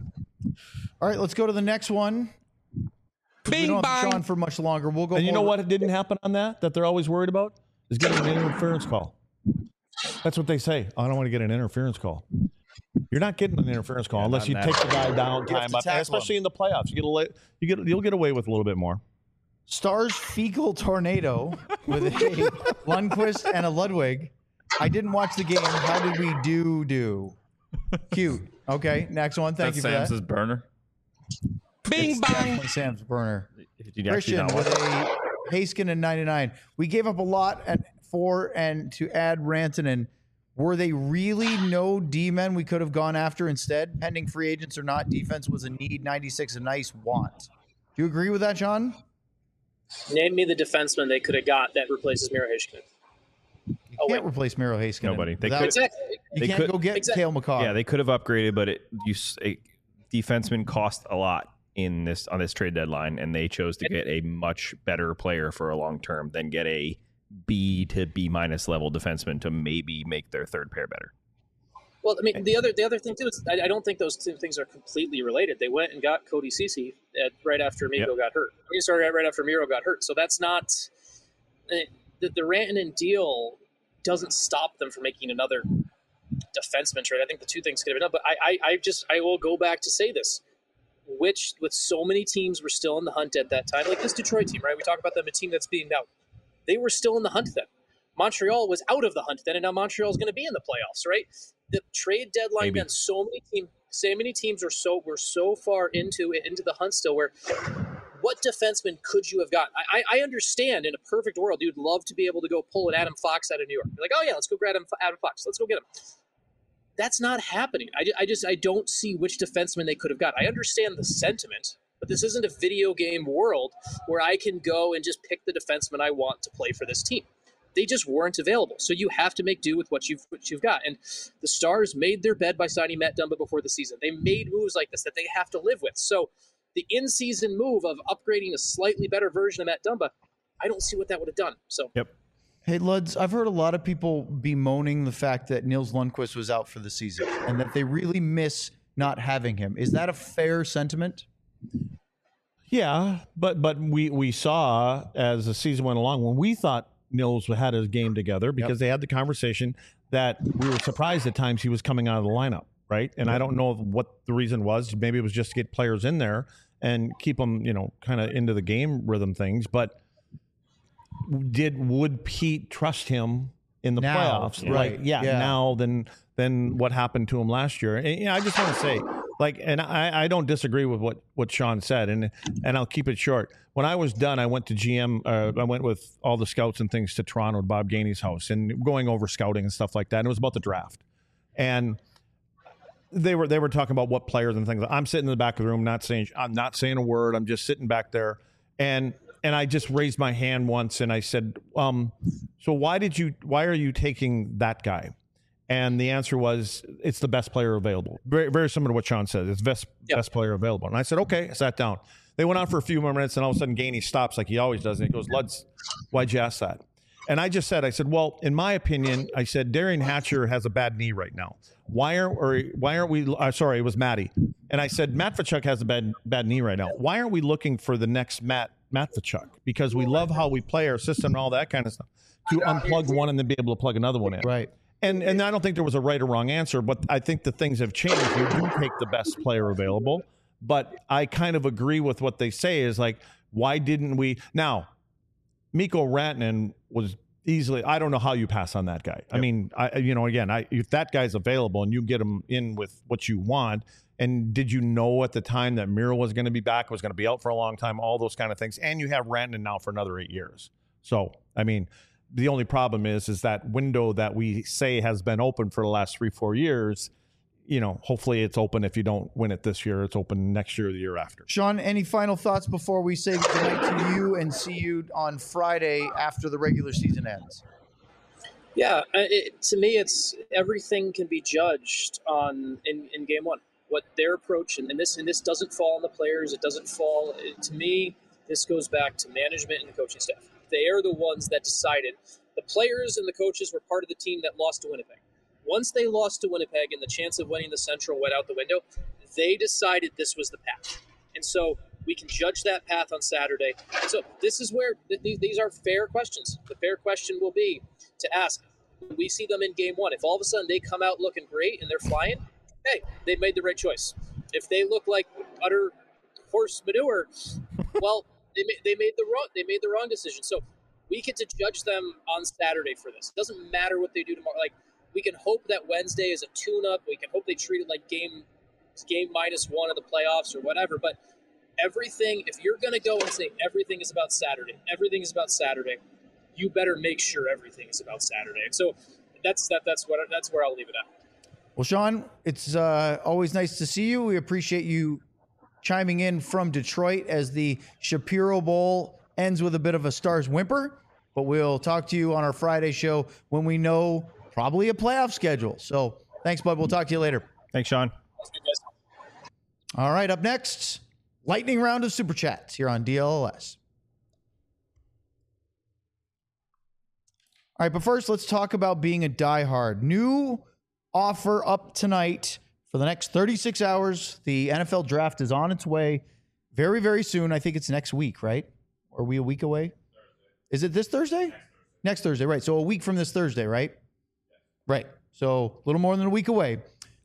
All right, let's go to the next one. We don't have Sean for much longer. We'll go. And you more know what didn't happen on that they're always worried about? Is getting an interference call. That's what they say. I don't want to get an interference call. You're not getting an interference call unless you take the guy down, time up, and especially in the playoffs. You'll get away with a little bit more. Stars fecal tornado with a Lundqvist and a Ludwig. I didn't watch the game. How did we do? Cute. Okay, next one. Thank you for Sam's that. burner. Bing bang. Sam's burner. Christian with a Haskin and 99. We gave up a lot and to add Rantanen. Were they really no D-men we could have gone after instead? Pending free agents or not, defense was a need. 96 a nice want. Do you agree with that, John? Name me the defenseman they could have got that replaces Miro Heiskanen. You can't replace Miro Heiskanen. Nobody. They Without- could. Exactly. You can't go get Cale McCaw. Yeah, they could have upgraded, but defensemen cost a lot on this trade deadline, and they chose to get a much better player for a long term than get a B to B- level defenseman to maybe make their third pair better. Well, I mean, the other thing too is I don't think those two things are completely related. They went and got Cody Ceci right after Miro got hurt. Sorry, right after Miro got hurt. So that's not the Rantanen deal doesn't stop them from making another defenseman trade. I think the two things could have been done. But I will go back to say this. Which, with so many teams were still in the hunt at that time, like this Detroit team, right? We talk about them, a team that's being out. They were still in the hunt then. Montreal was out of the hunt then, and now Montreal is going to be in the playoffs, right? The trade deadline then, so many teams were so far into the hunt still. Where what defenseman could you have gotten? I understand in a perfect world, you'd love to be able to go pull an Adam Fox out of New York. You're like, oh yeah, let's go grab Adam Fox. Let's go get him. That's not happening. I don't see which defenseman they could have got. I understand the sentiment, but this isn't a video game world where I can go and just pick the defenseman I want to play for this team. They just weren't available. So you have to make do with what you've got. And the Stars made their bed by signing Matt Dumba before the season. They made moves like this that they have to live with. So the in-season move of upgrading a slightly better version of Matt Dumba, I don't see what that would have done. So Yep. Hey, Luds, I've heard a lot of people bemoaning the fact that Nils Lundqvist was out for the season and that they really miss not having him. Is that a fair sentiment? Yeah, but we saw as the season went along when we thought Nils had his game together because they had the conversation that we were surprised at times he was coming out of the lineup, right? And I don't know what the reason was. Maybe it was just to get players in there and keep them, kind of into the game rhythm things. But would Pete trust him in the playoffs? Right. Now than what happened to him last year. And I just want to say, and I don't disagree with what Sean said, and I'll keep it short. When I was done, I went to GM. I went with all the scouts and things to Toronto at Bob Gainey's house and going over scouting and stuff like that. And it was about the draft, and they were talking about what players and things. I'm sitting in the back of the room, I'm not saying a word. I'm just sitting back there, and I just raised my hand once and I said, so why are you taking that guy? And the answer was, it's the best player available. Very, very similar to what Sean said. It's best player available. And I said, okay, I sat down. They went on for a few more minutes, and all of a sudden, Gainey stops like he always does. And he goes, Luds, why'd you ask that? And I just said, well, in my opinion, I said, Darian Hatcher has a bad't right now. Why aren't we, sorry, it was Matty. And I said, Matt Tkachuk has a bad knee right now. Why aren't we looking for the next Matt Tkachuk? Because we love how we play our system and all that kind of stuff. To unplug one and then be able to plug another one in. Right. And I don't think there was a right or wrong answer, but I think the things have changed. You do take the best player available. But I kind of agree with what they say is like, why didn't we? Now, Mikko Rantanen was easily, I don't know how you pass on that guy. Yep. I mean, if that guy's available and you get him in with what you want, and did you know at the time that Miro was going to be back, was going to be out for a long time, all those kind of things, and you have Rantanen now for another 8 years. So, I mean, the only problem is that window that we say has been open for the last 3-4 years, hopefully it's open. If you don't win it this year, it's open next year or the year after. Sean, any final thoughts before we say goodnight to you and see you on Friday after the regular season ends? Yeah, to me, it's everything can be judged in game one. What their approach, and this doesn't fall on the players. It doesn't fall, to me, this goes back to management and the coaching staff. They are the ones that decided. The players and the coaches were part of the team that lost to Winnipeg. Once they lost to Winnipeg and the chance of winning the Central went out the window, they decided this was the path. And so we can judge that path on Saturday. And so this is where these are fair questions. The fair question will be to ask, when we see them in game one, if all of a sudden they come out looking great and they're flying, hey, they made the right choice. If they look like utter horse manure, well, they made the wrong decision. So we get to judge them on Saturday for this. It doesn't matter what they do tomorrow. Like, we can hope that Wednesday is a tune-up. We can hope they treat it like game -1 of the playoffs or whatever. But everything, if you're going to go and say everything is about Saturday, you better make sure everything is about Saturday. So that's where I'll leave it at. Well, Sean, it's always nice to see you. We appreciate you chiming in from Detroit as the Shapiro Bowl ends with a bit of a Stars whimper. But we'll talk to you on our Friday show when we know probably a playoff schedule. So thanks, bud. We'll talk to you later. Thanks, Sean. All right, up next, lightning round of Super Chats here on DLLS. All right, but first, let's talk about being a diehard. New offer up tonight for the next 36 hours. The NFL draft is on its way very, very soon. I think it's next week, right? Are we a week away? Is it this Thursday? Next Thursday, right. So a week from this Thursday, right? Right. So a little more than a week away.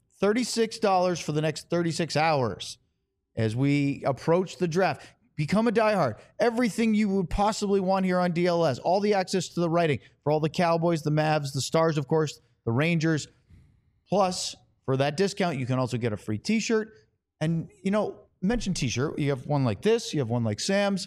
$36 for the next 36 hours as we approach the draft. Become a diehard. Everything you would possibly want here on DLS. All the access to the writing for all the Cowboys, the Mavs, the Stars, of course, the Rangers. Plus, for that discount, you can also get a free T-shirt. And, mention T-shirt. You have one like this. You have one like Sam's.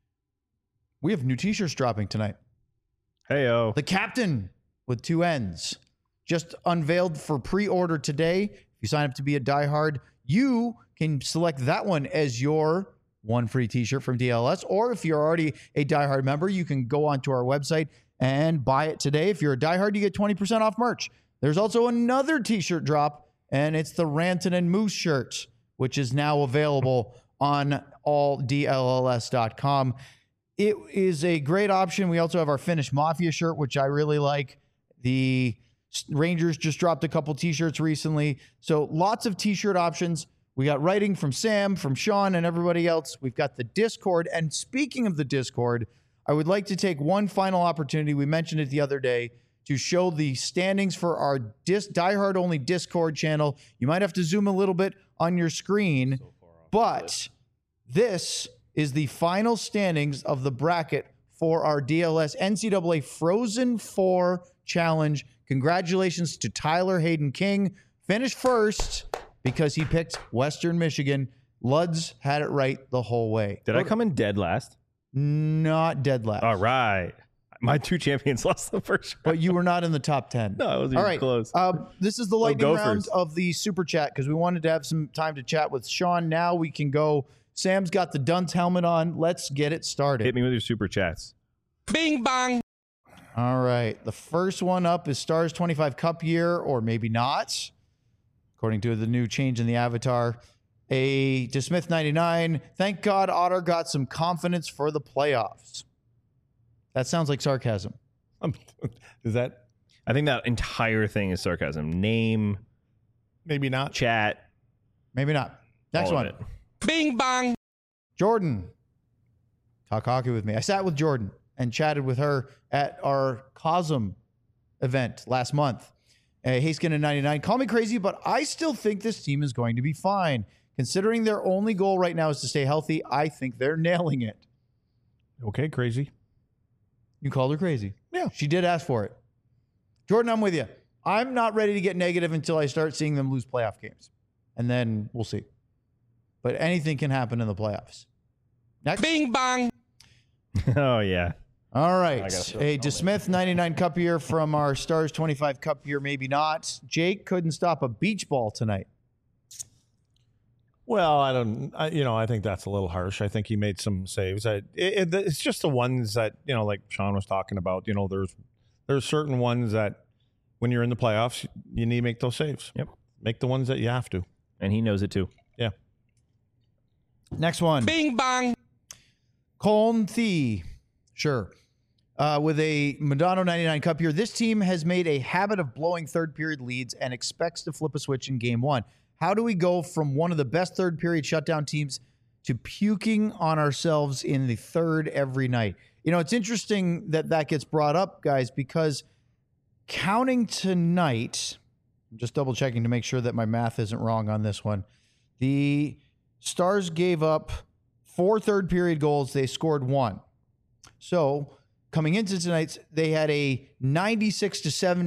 We have new T-shirts dropping tonight. Hey-o. The Captain with 2 N's. Just unveiled for pre-order today. If you sign up to be a diehard, you can select that one as your one free T-shirt from DLS. Or if you're already a diehard member, you can go onto our website and buy it today. If you're a diehard, you get 20% off merch. There's also another T-shirt drop, and it's the Rantanen and Moose shirt, which is now available on alldlls.com. It is a great option. We also have our Finnish Mafia shirt, which I really like. The Rangers just dropped a couple T-shirts recently. So lots of T-shirt options. We got writing from Sam, from Sean, and everybody else. We've got the Discord. And speaking of the Discord, I would like to take one final opportunity. We mentioned it the other day to show the standings for our diehard-only Discord channel. You might have to zoom a little bit on your screen, but this is the final standings of the bracket for our DLS NCAA Frozen 4 Challenge. Congratulations to Tyler Hayden King. Finished first because he picked Western Michigan. Luds had it right the whole way. Did I come in dead last? Not dead last. All right. My 2 champions lost the first round. But you were not in the top 10. No, it was even close. This is the lightning round of the Super Chat because we wanted to have some time to chat with Sean. Now we can go. Sam's got the Dunce helmet on. Let's get it started. Hit me with your Super Chats. Bing bang. All right. The first one up is Stars 25 Cup year, or maybe not, according to the new change in the avatar. A DeSmith 99. Thank God Otter got some confidence for the playoffs. That sounds like sarcasm. Is that? I think that entire thing is sarcasm. Name, maybe not. Chat, maybe not. Next all one. of it. Bing bong. Jordan. Talk hockey with me. I sat with Jordan and chatted with her at our COSM event last month. Hayskin and 99. Call me crazy, but I still think this team is going to be fine. Considering their only goal right now is to stay healthy, I think they're nailing it. Okay, crazy. You called her crazy. Yeah. She did ask for it. Jordan, I'm with you. I'm not ready to get negative until I start seeing them lose playoff games. And then we'll see. But anything can happen in the playoffs. Next. Bing bong. Oh, yeah. All right. A DeSmith 99 Cup year from our Stars 25 Cup year, maybe not. Jake couldn't stop a beach ball tonight. Well, I think that's a little harsh. I think he made some saves. It's just the ones that, like Sean was talking about, there's certain ones that when you're in the playoffs, you need to make those saves. Yep. Make the ones that you have to. And he knows it too. Yeah. Next one. Bing bong. Coln Thee. Sure. With a Madonna 99 Cup year, this team has made a habit of blowing third period leads and expects to flip a switch in game one. How do we go from one of the best third period shutdown teams to puking on ourselves in the third every night? It's interesting that gets brought up, guys, because counting tonight, I'm just double checking to make sure that my math isn't wrong on this one. The Stars gave up 4 third period goals. They scored 1. So coming into tonight's, they had a 96 to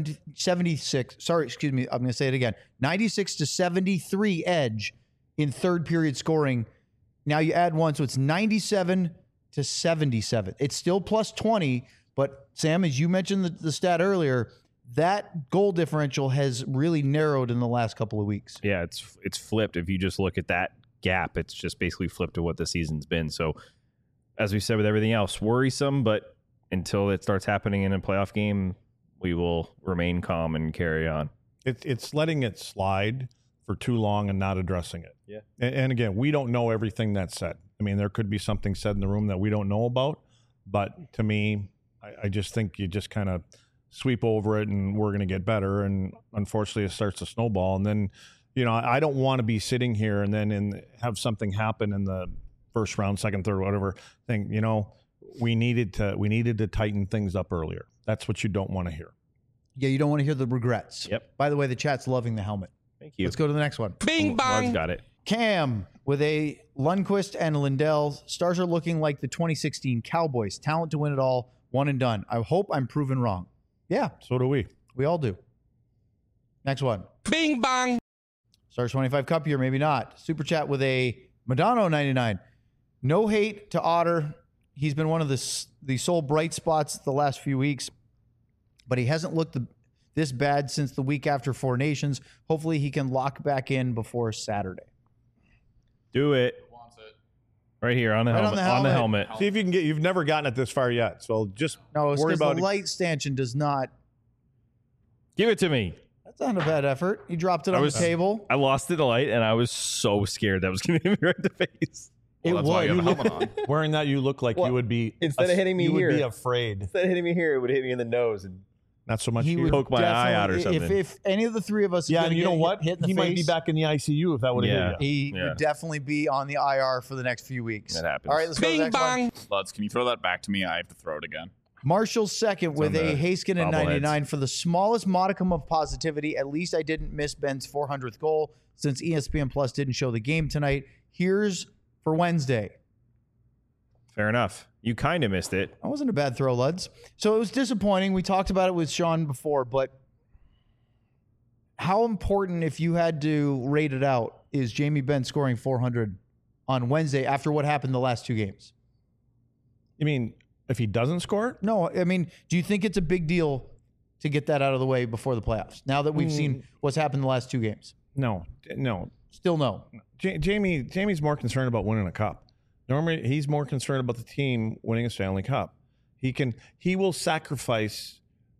76. Sorry, excuse me. I'm going to say it again. 96 to 73 edge in third period scoring. Now you add 1, so it's 97 to 77. It's still plus 20, but Sam, as you mentioned the stat earlier, that goal differential has really narrowed in the last couple of weeks. Yeah, it's flipped. If you just look at that gap, it's just basically flipped to what the season's been. So as we said with everything else, worrisome, but until it starts happening in a playoff game, we will remain calm and carry on. It's letting it slide for too long and not addressing it. Yeah. And again, we don't know everything that's said. I mean, there could be something said in the room that we don't know about. But to me, I just think you just kind of sweep over it and we're going to get better. And unfortunately, it starts to snowball. And then, I don't want to be sitting here and then have something happen in the first round, second, third, whatever thing. We needed to tighten things up earlier. That's what you don't want to hear. Yeah, you don't want to hear the regrets. Yep. By the way, the chat's loving the helmet. Thank you. Let's go to the next one. Bing bong. Led's got it. Cam with a Lundqvist and Lindell. Stars are looking like the 2016 Cowboys. Talent to win it all. One and done. I hope I'm proven wrong. Yeah, So do we. we all do. Next one. Bing bong. Stars 25 Cup year, maybe not. Super chat with a Madonna 99. No hate to Otter. He's been one of the sole bright spots the last few weeks, but he hasn't looked this bad since the week after Four Nations. Hopefully he can lock back in before Saturday. Do it. Right here on the Right helmet. on the helmet. See if you can get. You've never gotten it this far yet, so just No, it's worry because about the it. light stanchion does not. Give it to me. That's not a bad effort. He dropped it on the table. I lost it the light, and I was so scared that was going to hit me right in the face. Well, that's why you have a helmet on. Wearing that, you look like Well, you would be instead of hitting me you here- would be afraid. Instead of hitting me here, it would hit me in the nose. And Not so much He here. would poke my eye out or definitely- something. If any of the three of us, is Yeah, gonna and you get know what? hit in the He face, might be back in the ICU if that would have Yeah. hit you. He Yeah. would definitely be on the IR for the next few weeks. That happens. All right, let's go to the Bing next one. bong. Lutz, can you throw that back to me? I have to throw it again. Marshall's second with on a the Hayskin and bobbleheads. 99 for the smallest modicum of positivity. At least I didn't miss Ben's 400th goal since ESPN Plus didn't show the game tonight. Here's for Wednesday. Fair enough. You kind of missed it. That wasn't a bad throw, Luds. So it was disappointing. We talked about it with Sean before, but how important, if you had to rate it out, is Jamie Benn scoring 400 on Wednesday after what happened the last two games? You mean if he doesn't score it? No, I mean, do you think it's a big deal to get that out of the way before the playoffs? Now that we've seen what's happened the last two games. No. Still no. Jamie's more concerned about winning a cup. Normally, he's more concerned about the team winning a Stanley Cup. He will sacrifice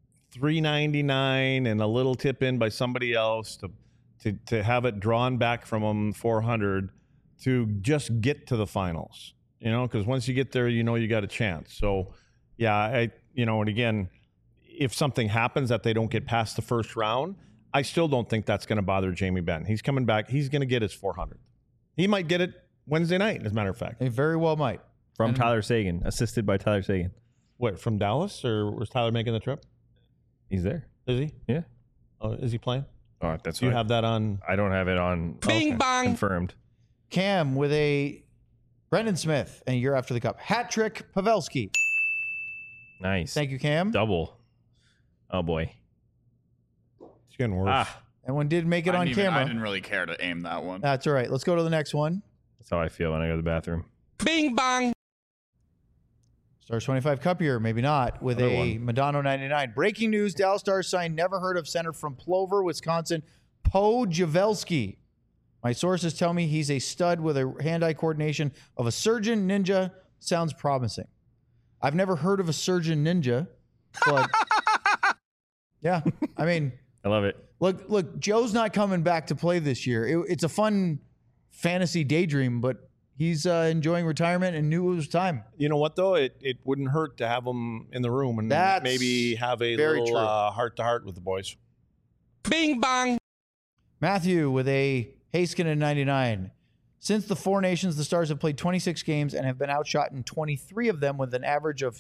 $399 and a little tip in by somebody else to have it drawn back from him $400 to just get to the finals. Because once you get there, you got a chance. So, yeah, and again, if something happens that they don't get past the first round, I still don't think that's going to bother Jamie Benn. He's coming back. He's going to get his 400. He might get it Wednesday night, as a matter of fact. He very well might. From Tyler Sagan, assisted by Tyler Sagan. What, from Dallas, or was Tyler making the trip? He's there. Is he? Yeah. Oh, is he playing? Oh, that's Do you have that on? I don't have it on. Bing bong. Confirmed. Cam with a Brendan Smith, and you're after the cup. Hat trick, Pavelski. Nice. Thank you, Cam. Double. Oh, boy. It's getting worse. That one did make it on camera. I didn't really care to aim that one. That's all right. Let's go to the next one. That's how I feel when I go to the bathroom. Bing bong. Stars 25 Cup year, maybe not, with Another a Madonna 99. Breaking news, Dallas Stars signed never heard of center from Plover, Wisconsin, Po Javelski. My sources tell me he's a stud with a hand-eye coordination of a surgeon ninja. Sounds promising. I've never heard of a surgeon ninja, but yeah, I mean, I love it. look, Joe's not coming back to play this year. It's a fun fantasy daydream, but he's enjoying retirement and knew it was time. You know what, though? It wouldn't hurt to have him in the room and That's maybe have a very little true. heart-to-heart with the boys. Bing bong. Matthew with a Heiskanen 99. Since the Four Nations, the Stars have played 26 games and have been outshot in 23 of them with an average of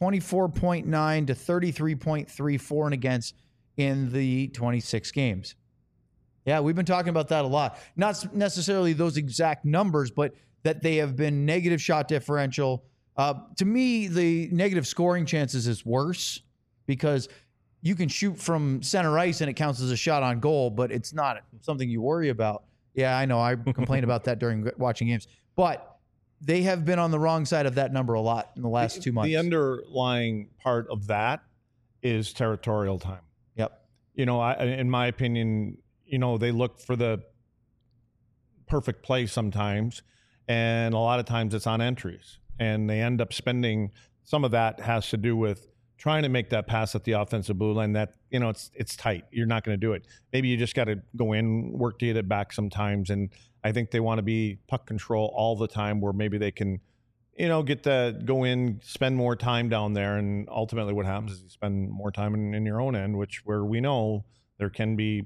24.9 to 33.3 for and against in the 26 games. Yeah, we've been talking about that a lot. Not necessarily those exact numbers, but that they have been negative shot differential. To me, the negative scoring chances is worse because you can shoot from center ice and it counts as a shot on goal, but it's not something you worry about. Yeah, I know. I complained about that during watching games. But they have been on the wrong side of that number a lot in the last 2 months. The underlying part of that is territorial time. Yep. In my opinion, they look for the perfect play sometimes, and a lot of times it's on entries. And they end up spending, some of that has to do with trying to make that pass at the offensive blue line that, it's tight. You're not going to do it. Maybe you just got to go in, work to get it back sometimes. And I think they want to be puck control all the time where maybe they can, get to go in, spend more time down there. And ultimately what happens is you spend more time in your own end, where we know there can be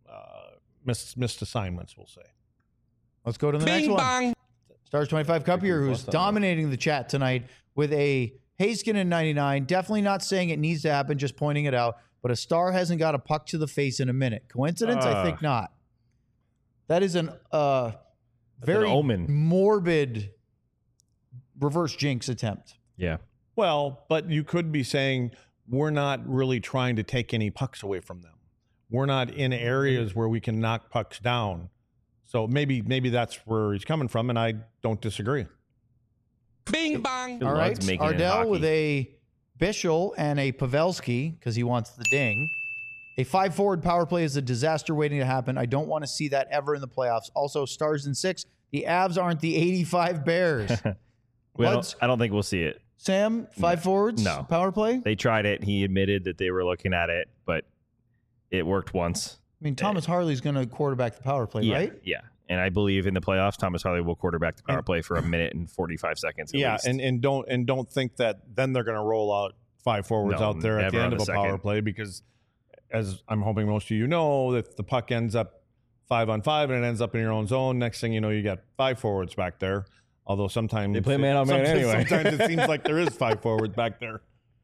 missed assignments, we'll say. Let's go to the Bing next one. bong. Stars 25 Cup year, who's dominating the chat tonight with a Heiskanen 99. Definitely not saying it needs to happen, just pointing it out. But a Star hasn't got a puck to the face in a minute. Coincidence? I think not. That is an very omen. morbid reverse jinx attempt. Yeah. Well, but you could be saying we're not really trying to take any pucks away from them. We're not in areas where we can knock pucks down. So maybe that's where he's coming from, and I don't disagree. Bing bong. All right, Ardell with a Bischel and a Pavelski because he wants the ding. A 5-forward power play is a disaster waiting to happen. I don't want to see that ever in the playoffs. Also, Stars in 6. The Avs aren't the 85 Bears. I don't think we'll see it. Sam, 5 forwards? No. Power play? They tried it. He admitted that they were looking at it, but it worked once. I mean, Thomas Harley's going to quarterback the power play, right? Yeah. And I believe in the playoffs, Thomas Harley will quarterback the power play for 1 minute and 45 seconds. At least. and don't think that then they're going to roll out 5 forwards out there at the end of a power play, because as I'm hoping most of you know, if the puck ends up 5-on-5 and it ends up in your own zone, next thing you know, you got 5 forwards back there. Although sometimes they play man on man anyway. Sometimes it seems like there is 5 forwards back there.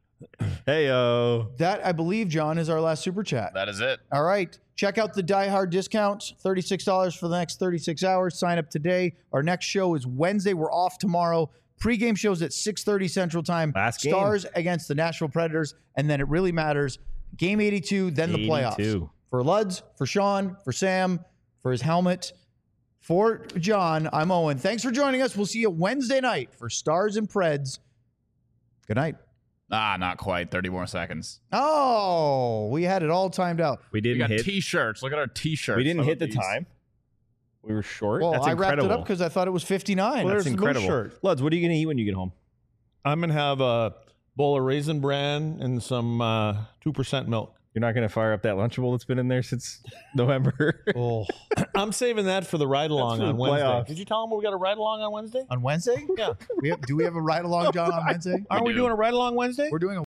Hey-o. That, I believe, John, is our last super chat. That is it. All right. Check out the Die Hard discount, $36 for the next 36 hours. Sign up today. Our next show is Wednesday. We're off tomorrow. Pre-game shows at 6:30 Central Time. Last game. Stars against the Nashville Predators. And then it really matters. Game 82, then the playoffs. For Luds, for Sean, for Sam, for his helmet. For John, I'm Owen. Thanks for joining us. We'll see you Wednesday night for Stars and Preds. Good night. Not quite. 30 more seconds. Oh, we had it all timed out. We We got hit. T-shirts. Look at our T-shirts. We didn't How hit the about these? time. We were short. Well, That's I wrapped incredible. it up because I thought it was 59. That's there's the Moose incredible. shirt. Luds, what are you going to eat when you get home? I'm going to have a bowl of Raisin Bran and some 2% milk. You're not going to fire up that Lunchable that's been in there since November. Oh, I'm saving that for the ride along for the on Wednesday. playoffs. Did you tell them we got a ride along on Wednesday? on Wednesday? Yeah. Do we have a ride along, John, on Wednesday? Aren't we doing a ride along Wednesday? We're doing a